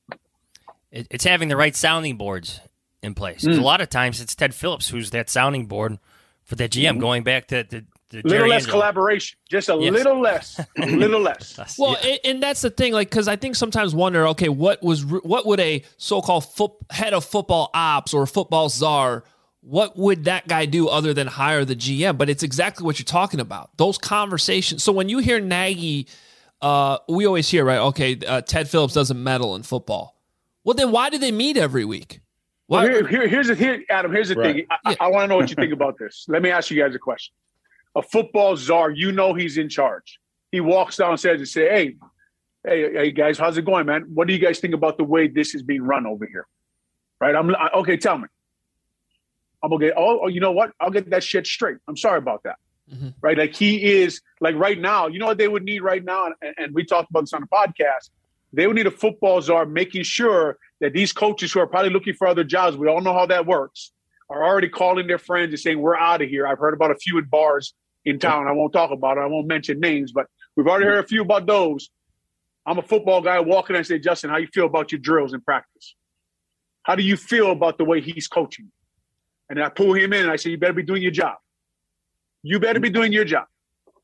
It's having the right sounding boards in place. Mm. A lot of times it's Ted Phillips who's that sounding board for that G M, mm-hmm. going back to the A little less Angelo. collaboration, just a yes. little less, a little less. Well, yeah. and that's the thing, like, because I think sometimes wonder, okay, what was what would a so-called fo- head of football ops or football czar, what would that guy do other than hire the G M? But it's exactly what you're talking about. Those conversations. So when you hear Nagy, uh, we always hear, right? Okay, uh, Ted Phillips doesn't meddle in football. Well, then why do they meet every week? Well, here, here, here's the here, Adam. Here's the right. thing. I, yeah. I, I want to know what you think about this. Let me ask you guys a question. A football czar, you know he's in charge. He walks downstairs and say, hey, hey, hey, guys, how's it going, man? What do you guys think about the way this is being run over here? Right? I'm I, okay, tell me. I'm going to get, oh, oh, you know what? I'll get that shit straight. I'm sorry about that. Mm-hmm. Right? Like he is, like right now, you know what they would need right now? And, and we talked about this on the podcast. They would need a football czar making sure that these coaches who are probably looking for other jobs, we all know how that works, are already calling their friends and saying, we're out of here. I've heard about a few in bars in town. I won't talk about it. I won't mention names, but we've already heard a few about those. I'm a football guy walking and say, Justin, how you feel about your drills in practice? How do you feel about the way he's coaching? And I pull him in and I say, you better be doing your job. You better be doing your job.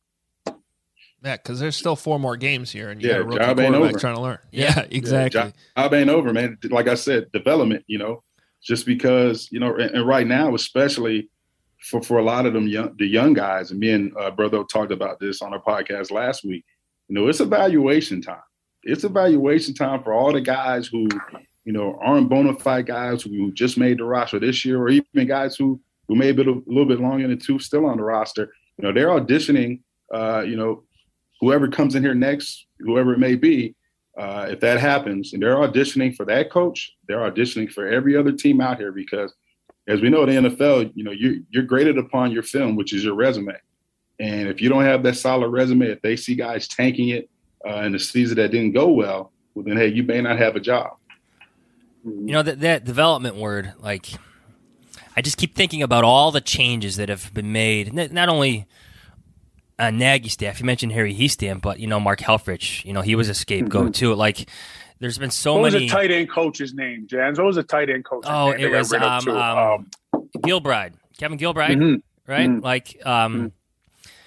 Yeah, because there's still four more games here, and you yeah, got a rookie job ain't over. trying to learn. Yeah, yeah exactly. Yeah, job ain't over, man. Like I said, development, you know, just because, you know, and, and right now, especially for, for a lot of them young, the young guys, and me and uh, Brother talked about this on our podcast last week, you know, it's evaluation time. It's evaluation time for all the guys who, you know, aren't bona fide guys who just made the roster this year, or even guys who, who may be a little bit longer than two still on the roster. You know, they're auditioning, uh, you know, whoever comes in here next, whoever it may be, uh, if that happens, and they're auditioning for that coach, they're auditioning for every other team out here because, as we know, in the N F L, you know, you're, you're graded upon your film, which is your resume. And if you don't have that solid resume, if they see guys tanking it uh, in the season that didn't go well, well, then, hey, you may not have a job. You know, that, that development word, like, I just keep thinking about all the changes that have been made, not only – Uh, Nagy staff. You mentioned Harry Hiestand, but you know Mark Helfrich. You know he was a scapegoat mm-hmm. too. Like there's been so what many. What was the tight end coach's name, Jans? What was the tight end coach's oh, name? it was um, um, um, Gilbride, Kevin Gilbride, mm-hmm. right? Mm-hmm. Like, um, mm-hmm.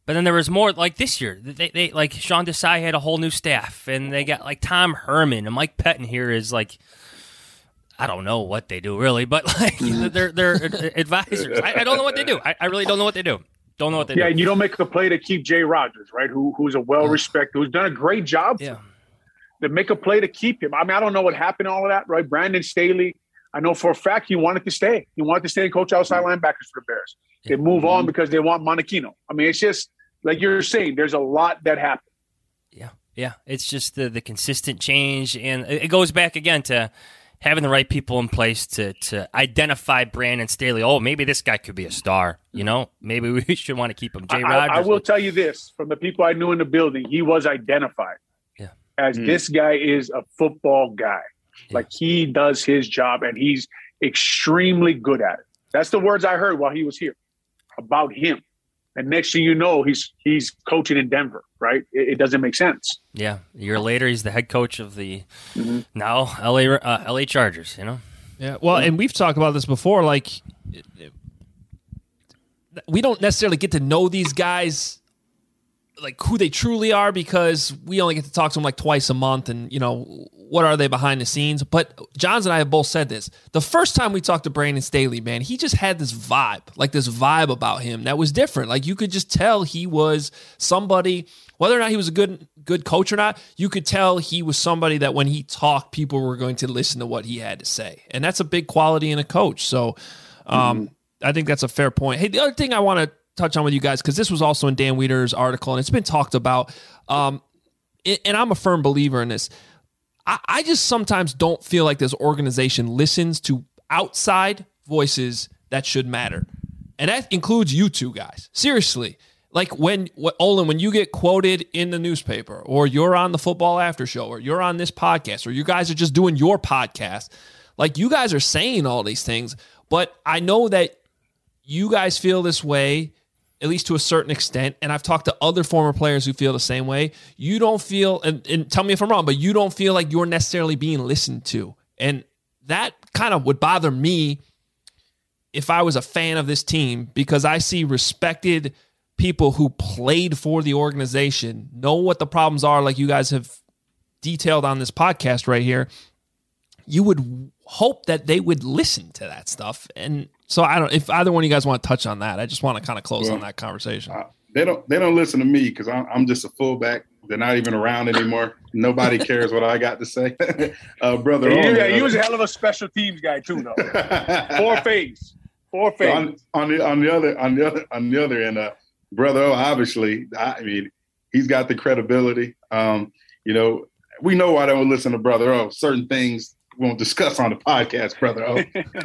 But then there was more like this year. They, they like Sean Desai had a whole new staff, and they got like Tom Herman and Mike Pettin here is like, I don't know what they do really, but like they're they're advisors. I, I don't know what they do. I, I really don't know what they do. Don't know what they yeah, do. Yeah, and you don't make the play to keep Jay Rogers, right? Who who's a well respected, who's done a great job. Yeah. To make a play to keep him. I mean, I don't know what happened, all of that, right? Brandon Staley, I know for a fact he wanted to stay. He wanted to stay and coach outside linebackers for the Bears. They move on because they want Monachino. I mean, it's just like you're saying, there's a lot that happened. Yeah, yeah. It's just the the consistent change, and it goes back again to having the right people in place to to identify Brandon Staley. Oh, maybe this guy could be a star. You know, maybe we should want to keep him. Jay I, Rogers. I will tell you this: from the people I knew in the building, he was identified yeah. as mm. this guy is a football guy. Yeah. Like he does his job, and he's extremely good at it. That's the words I heard while he was here about him. And next thing you know, he's he's coaching in Denver, right? It, it doesn't make sense. Yeah, a year later, he's the head coach of the mm-hmm. now L A uh, L A Chargers. You know. Yeah. Well, and we've talked about this before. Like, it, it, we don't necessarily get to know these guys, like who they truly are, because we only get to talk to them like twice a month, and you know, what are they behind the scenes? But Johns and I have both said this. The first time we talked to Brandon Staley, man, he just had this vibe, like this vibe about him that was different. Like you could just tell he was somebody, whether or not he was a good good coach or not, you could tell he was somebody that when he talked, people were going to listen to what he had to say. And that's a big quality in a coach. So um, mm-hmm. I think that's a fair point. Hey, the other thing I want to touch on with you guys, because this was also in Dan Wieder's article, and it's been talked about, um, and I'm a firm believer in this. I just sometimes don't feel like this organization listens to outside voices that should matter. And that includes you two guys. Seriously. Like when, Olin, when you get quoted in the newspaper, or you're on the Football After Show, or you're on this podcast, or you guys are just doing your podcast, like you guys are saying all these things, but I know that you guys feel this way, at least to a certain extent, and I've talked to other former players who feel the same way. You don't feel, and, and tell me if I'm wrong, but you don't feel like you're necessarily being listened to. And that kind of would bother me if I was a fan of this team, because I see respected people who played for the organization, know what the problems are, like you guys have detailed on this podcast right here. You would hope that they would listen to that stuff. And so I don't, if either one of you guys want to touch on that, I just want to kind of close well, on that conversation. Uh, they don't, they don't listen to me because I'm, I'm just a fullback. They're not even around anymore. Nobody cares what I got to say. uh, brother. Yeah, yeah, he was a hell of a special teams guy too, though. Four phase, four phase. On, on the on the other on the other on the other end, uh, brother. O, obviously, I mean, he's got the credibility. Um, you know, we know why they don't listen to Brother O. Certain things we won't discuss on the podcast, Brother O.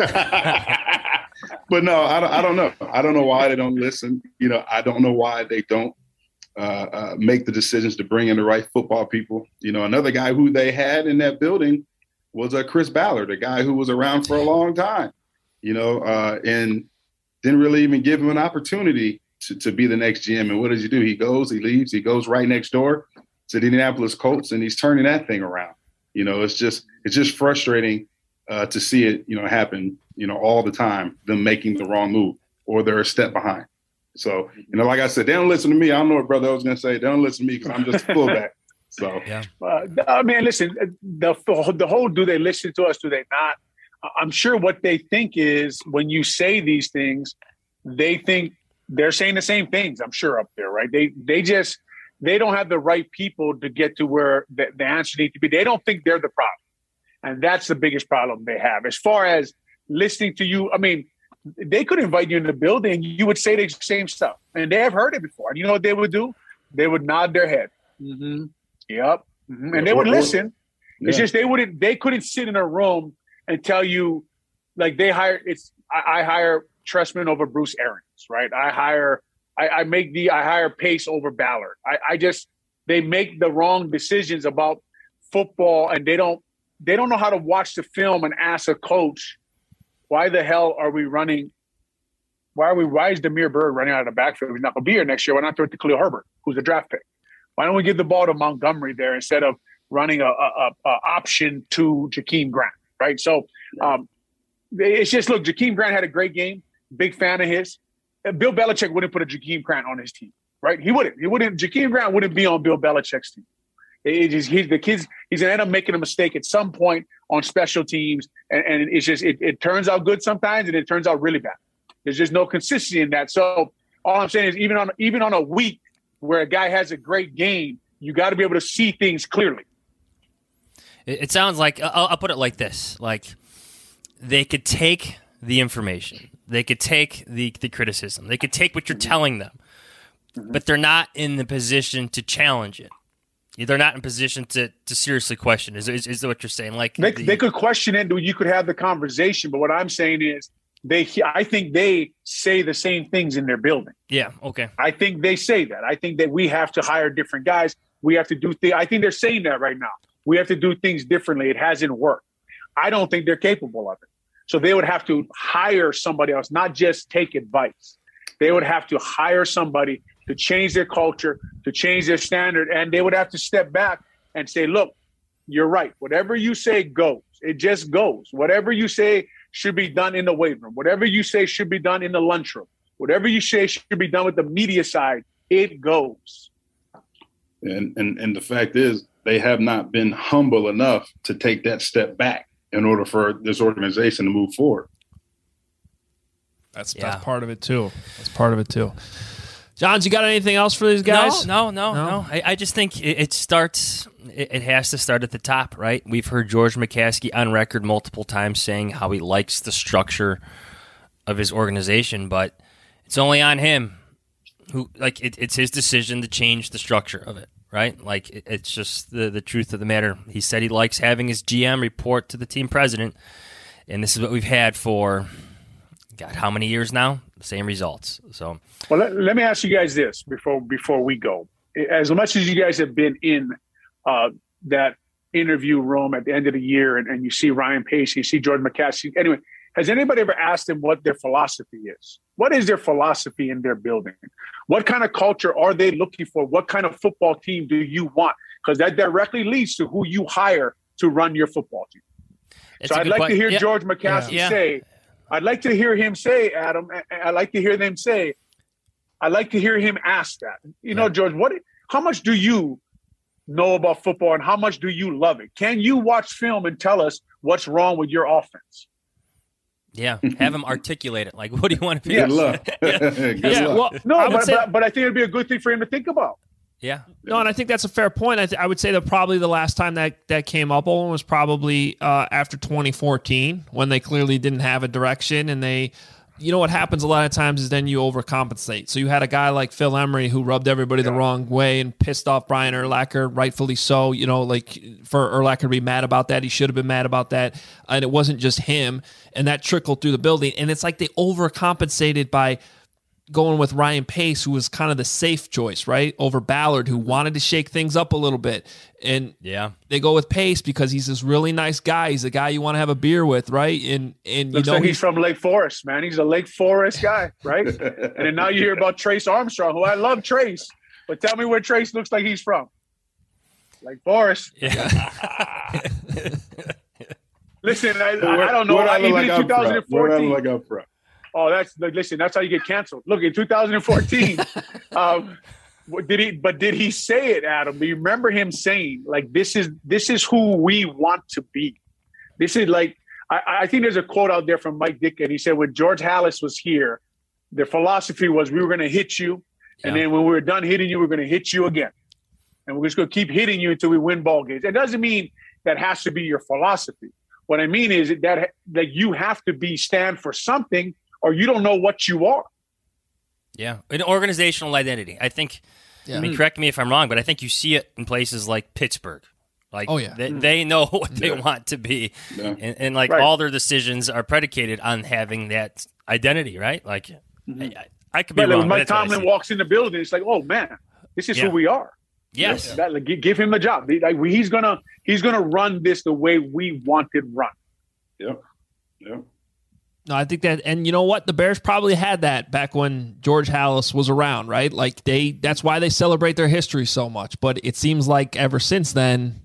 But no, I don't, I don't know. I don't know why they don't listen. You know, I don't know why they don't uh, uh, make the decisions to bring in the right football people. You know, another guy who they had in that building was uh, Chris Ballard, a guy who was around for a long time, you know, uh, and didn't really even give him an opportunity to, to be the next G M. And what does he do? He goes, he leaves, he goes right next door to the Indianapolis Colts, and he's turning that thing around. You know, it's just it's just frustrating uh, to see it, you know, happen, you know, all the time, them making the wrong move or they're a step behind. So, you know, like I said, they don't listen to me. I don't know what Brother I was going to say. They don't listen to me because I'm just a fullback. So, yeah. Uh, I mean, listen, the, the whole do they listen to us, do they not? I'm sure what they think is when you say these things, they think they're saying the same things, I'm sure, up there, right? They they just – they don't have the right people to get to where the, the answer needs to be. They don't think they're the problem. And that's the biggest problem they have. As far as listening to you, I mean, they could invite you in the building. You would say the same stuff. And they have heard it before. And you know what they would do? They would nod their head. Mm-hmm. Yep. Mm-hmm. And they would listen. Yeah. It's just they wouldn't, they couldn't sit in a room and tell you, like they hire, it's, I, I hire Trestman over Bruce Arians, right? I hire, I, I make the, I hire Pace over Ballard. I, I just, they make the wrong decisions about football, and they don't, they don't know how to watch the film and ask a coach, why the hell are we running? Why are we, why is Damiere Byrd running out of the backfield? He's not going to be here next year. Why not throw it to Khalil Herbert, who's a draft pick? Why don't we give the ball to Montgomery there instead of running a, a, a option to Jakeem Grant, right? So um, it's just, look, Jakeem Grant had a great game. Big fan of his. Bill Belichick wouldn't put a Jakeem Grant on his team, right? He wouldn't. He wouldn't. Jakeem Grant wouldn't be on Bill Belichick's team. It just, he's the kids. He's gonna end up making a mistake at some point on special teams, and, and it's just it, it turns out good sometimes, and it turns out really bad. There's just no consistency in that. So all I'm saying is, even on even on a week where a guy has a great game, you got to be able to see things clearly. It, it sounds like I'll, I'll put it like this: like they could take the information, they could take the the criticism, they could take what you're telling them, mm-hmm. but they're not in the position to challenge it. They're not in position to, to seriously question. Is, is is what you're saying? Like they, the, they could question it. You could have the conversation. But what I'm saying is, they. I think they say the same things in their building. Yeah. Okay. I think they say that. I think that we have to hire different guys. We have to do things. I think they're saying that right now. We have to do things differently. It hasn't worked. I don't think they're capable of it. So they would have to hire somebody else, not just take advice. They would have to hire somebody to change their culture, to change their standard, and they would have to step back and say, look, you're right. Whatever you say goes. It just goes. Whatever you say should be done in the weight room. Whatever you say should be done in the lunchroom. Whatever you say should be done with the media side, it goes. And, and, and the fact is, they have not been humble enough to take that step back in order for this organization to move forward. That's, yeah. that's part of it, too. That's part of it, too. Johns, you got anything else for these guys? No, no, no, no. I, I just think it, it starts, it, it has to start at the top, right? We've heard George McCaskey on record multiple times saying how he likes the structure of his organization, but it's only on him. Who like it, It's his decision to change the structure of it, right? Like it, it's just the, the truth of the matter. He said he likes having his G M report to the team president, and this is what we've had for, God, how many years now? Same results. So, well, let, let me ask you guys this before before we go. As much as you guys have been in uh, that interview room at the end of the year, and, and you see Ryan Pace, you see George McCaskey. Anyway, has anybody ever asked them what their philosophy is? What is their philosophy in their building? What kind of culture are they looking for? What kind of football team do you want? Because that directly leads to who you hire to run your football team. It's so I'd like question. to hear yeah. George McCaskey yeah. say. I'd like to hear him say, Adam, I'd like to hear them say, I'd like to hear him ask that. You know, George, what? How much do you know about football and how much do you love it? Can you watch film and tell us what's wrong with your offense? Yeah, have him articulate it. Like, what do you want to be? Yeah. Good luck. yeah. Good yeah, luck. well, No, I would but, say, but, but I think it'd be a good thing for him to think about. Yeah. No, and I think that's a fair point. I, th- I would say that probably the last time that, that came up Owen, was probably uh, after twenty fourteen, when they clearly didn't have a direction, and they, you know, what happens a lot of times is then you overcompensate. So you had a guy like Phil Emery who rubbed everybody yeah. the wrong way and pissed off Brian Urlacher, rightfully so. You know, like for Urlacher to be mad about that, he should have been mad about that. And it wasn't just him, and that trickled through the building. And it's like they overcompensated by going with Ryan Pace, who was kind of the safe choice, right? Over Ballard, who wanted to shake things up a little bit. And yeah, they go with Pace because he's this really nice guy. He's a guy you want to have a beer with, right? And and you Looks know like he's, he's from Lake Forest, man. He's a Lake Forest guy, right? And then now you hear about Trace Armstrong, who I love Trace, but tell me where Trace looks like he's from. Lake Forest. Yeah. Listen, I, Where, I don't know. Where I, I look even like in I'm from? twenty fourteen. Where I look like I'm from? Oh, that's like, listen. That's how you get canceled. Look, in two thousand fourteen, um, what did he? But did he say it, Adam? Do you remember him saying, like, "This is this is who we want to be"? This is like I, I think there's a quote out there from Mike Ditka. He said, when George Halas was here, their philosophy was we were going to hit you, and Yeah. then when we were done hitting you, we're going to hit you again, and we're just going to keep hitting you until we win ball games. It doesn't mean that has to be your philosophy. What I mean is that that you have to be stand for something, or you don't know what you are. Yeah, an organizational identity. I think. Yeah. I mean, correct me if I'm wrong, but I think you see it in places like Pittsburgh. Like, Oh, yeah. they, they know what they Yeah. want to be, Yeah. and, and like Right. all their decisions are predicated on having that identity, right? Like, I, I, I could be But like, wrong. when but Mike that's what I Tomlin see. walks in the building, it's like, oh man, this is Yeah. who we are. Yes. That, like, gi- give him the job. Like, he's gonna he's gonna run this the way we want it run. Yep. Yep. No, I think that, and you know what? The Bears probably had that back when George Halas was around, right? Like they, that's why they celebrate their history so much. But it seems like ever since then,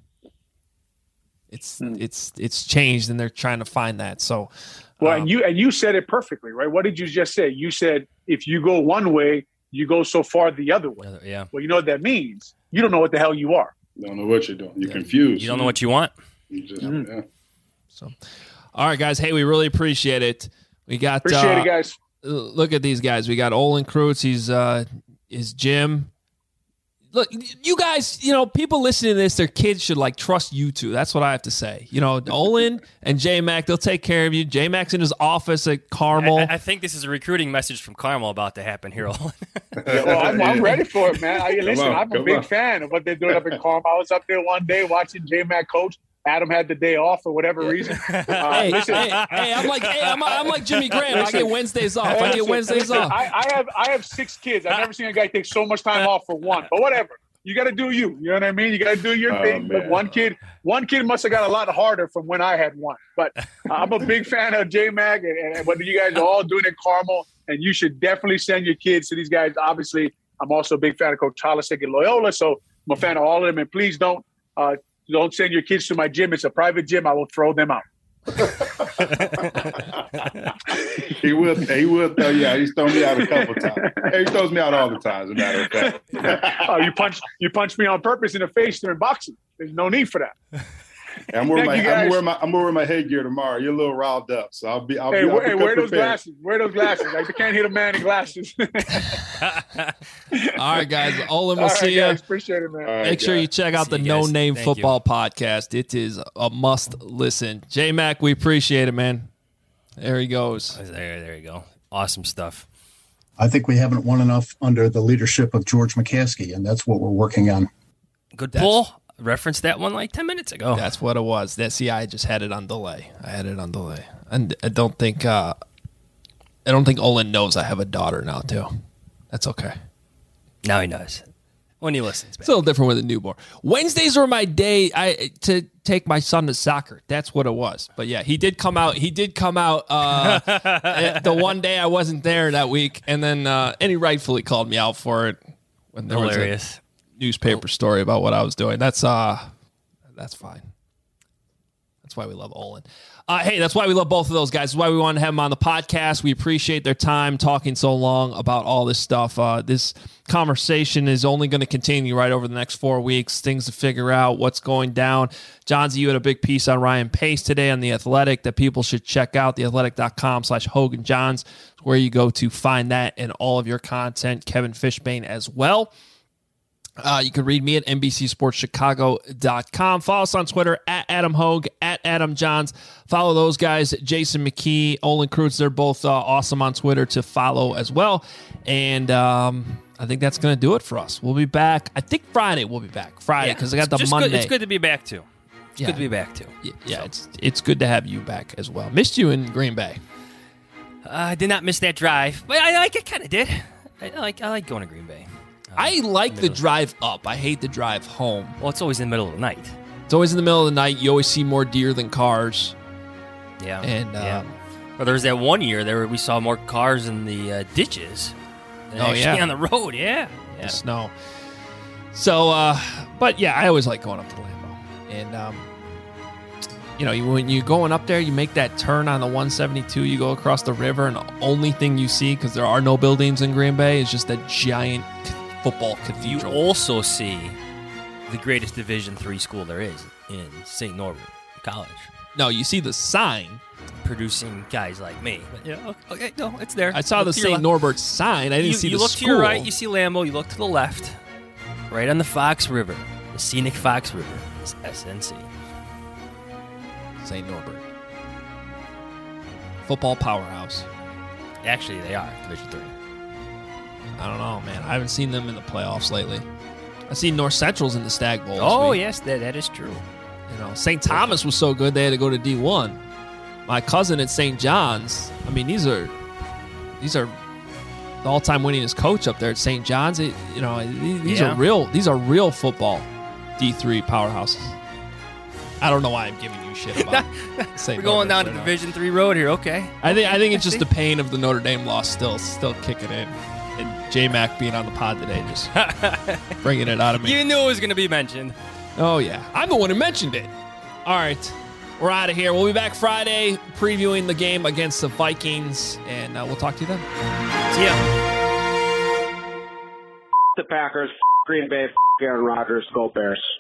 it's it's it's changed, and they're trying to find that. So, Well, um, and you and you said it perfectly, right? What did you just say? You said if you go one way, you go so far the other way. Yeah. Well, you know what that means? You don't know what the hell you are. You don't know what you're doing. You're confused. You don't know what you want. You just, Mm-hmm. yeah. So, all right, guys. Hey, we really appreciate it. We got Appreciate uh, it, guys. Look at these guys. We got Olin Kreutz. He's uh, his Jim. Look, you guys, you know, people listening to this, their kids should like trust you two. That's what I have to say. You know, Olin and J-Mac, they'll take care of you. J-Mac's in his office at Carmel. I, I think this is a recruiting message from Carmel about to happen here. Olin. Yeah, well, I'm, I'm ready for it, man. I, listen, on, I'm a come big on. fan of what they're doing up in Carmel. I was up there one day watching J-Mac coach. Adam had the day off for whatever reason. Uh, hey, listen, hey, hey, I'm like, hey, I'm, I'm like Jimmy Graham. I Listen. get Wednesdays off. I get listen, Wednesdays listen, off. I, I have I have six kids. I've never seen a guy take so much time off for one. But whatever. You got to do you. You know what I mean? You got to do your Oh, thing. But man. one kid, one kid must have got a lot harder from when I had one. But I'm a big fan of J-Mac and, and what you guys are all doing in Carmel. And you should definitely send your kids to these guys. Obviously, I'm also a big fan of Coach Holisick and Loyola. So I'm a fan of all of them. And please don't uh, don't send your kids to my gym. It's a private gym. I will throw them out. he will. He will throw you out. He's thrown me out a couple times. He throws me out all the time. As a matter of fact. Oh, you punch you punch me on purpose in the face during boxing. There's no need for that. I'm wearing my. Thank you, I'm guys. wearing my. I'm wearing my headgear tomorrow. You're a little riled up, so I'll be. I'll Hey, be. I'll wear, be hey, wear good those prepared. glasses. Wear those glasses. I can't hit a man in glasses. All right, guys. Olin, we'll All right, see you. guys. Appreciate it, man. All right, Make sure guys. you check out See the you No guys. Name Thank you. Football Podcast. It is a must listen. J-Mac, we appreciate it, man. There he goes. There, there you go. Awesome stuff. I think we haven't won enough under the leadership of George McCaskey, and that's what we're working on. Good That's- pull. Referenced that one like ten minutes ago. That's what it was. That see, I just had it on delay. I had it on delay, and I don't think uh, I don't think Olin knows I have a daughter now too. That's okay. Now he knows. When he listens back. It's a little different with a newborn. Wednesdays were my day I to take my son to soccer. That's what it was. But yeah, he did come out. He did come out uh, the one day I wasn't there that week, and then uh, and he rightfully called me out for it when there Hilarious. was a newspaper story about what I was doing. That's uh, that's fine. That's why we love Olin. Uh, hey, that's why we love both of those guys. That's why we wanted to have them on the podcast. We appreciate their time talking so long about all this stuff. Uh, this conversation is only going to continue right over the next four weeks. Things to figure out, what's going down. Johnsy, you had a big piece on Ryan Pace today on The Athletic that people should check out. theathletic.com slash Hogan Johns, where you go to find that and all of your content. Kevin Fishbane as well. Uh, you can read me at N B C Sports Chicago dot com. Follow us on Twitter at Adam Hogue, at Adam Johns. Follow those guys, Jason McKee, Olin Kreutz. They're both uh, awesome on Twitter to follow as well. And um, I think that's going to do it for us. We'll be back. I think Friday we'll be back. Friday, because I got the Just Monday. Good, it's good to be back too. It's Yeah. good to be back too. Yeah, yeah it's it's good to have you back as well. Missed you in Green Bay. Uh, I did not miss that drive, but I like. I kind of did. I like. I like going to Green Bay. I like the drive up. I hate the drive home. Well, it's always in the middle of the night. It's always in the middle of the night. You always see more deer than cars. Yeah. And yeah. um, Well, there was that one year there we saw more cars in the uh, ditches than Oh, actually yeah. on the road. Yeah. the Yeah. snow. So, uh, but yeah, I always like going up to Lambeau. And, um, you know, you, when you're going up there, you make that turn on the one seventy-two, you go across the river, and the only thing you see, because there are no buildings in Green Bay, is just that giant football cathedral. You also see the greatest Division three school there is in Saint Norbert College. No, you see the sign. Producing guys like me. But, yeah, okay, no, it's there. I saw Look the to your Saint left. Norbert sign. I didn't you, see you the look school. to your right, you see Lambeau. You look to the left, right on the Fox River, the scenic Fox River is S N C. Saint Norbert. Football powerhouse. Actually, they are Division three. I don't know, man. I haven't seen them in the playoffs lately. I seen North Central's in the Stag Bowl. this Oh week. yes, that that is true. You know, Saint Thomas was so good they had to go to D one. My cousin at Saint John's. I mean, these are these are the all-time winningest coach up there at Saint John's. It, you know, these, these Yeah. are real. These are real football D three powerhouses. I don't know why I'm giving you shit about Saint We're going Norbert down to right now. Division three road here. Okay. I think I think it's just the pain of the Notre Dame loss still still kicking in, and J Mac being on the pod today just bringing it out of me. You knew it was going to be mentioned. Oh yeah, I'm the one who mentioned it. All right, we're out of here. We'll be back Friday previewing the game against the Vikings, and uh, we'll talk to you then. See ya. the Packers, Green Bay, Aaron Rodgers, go Bears.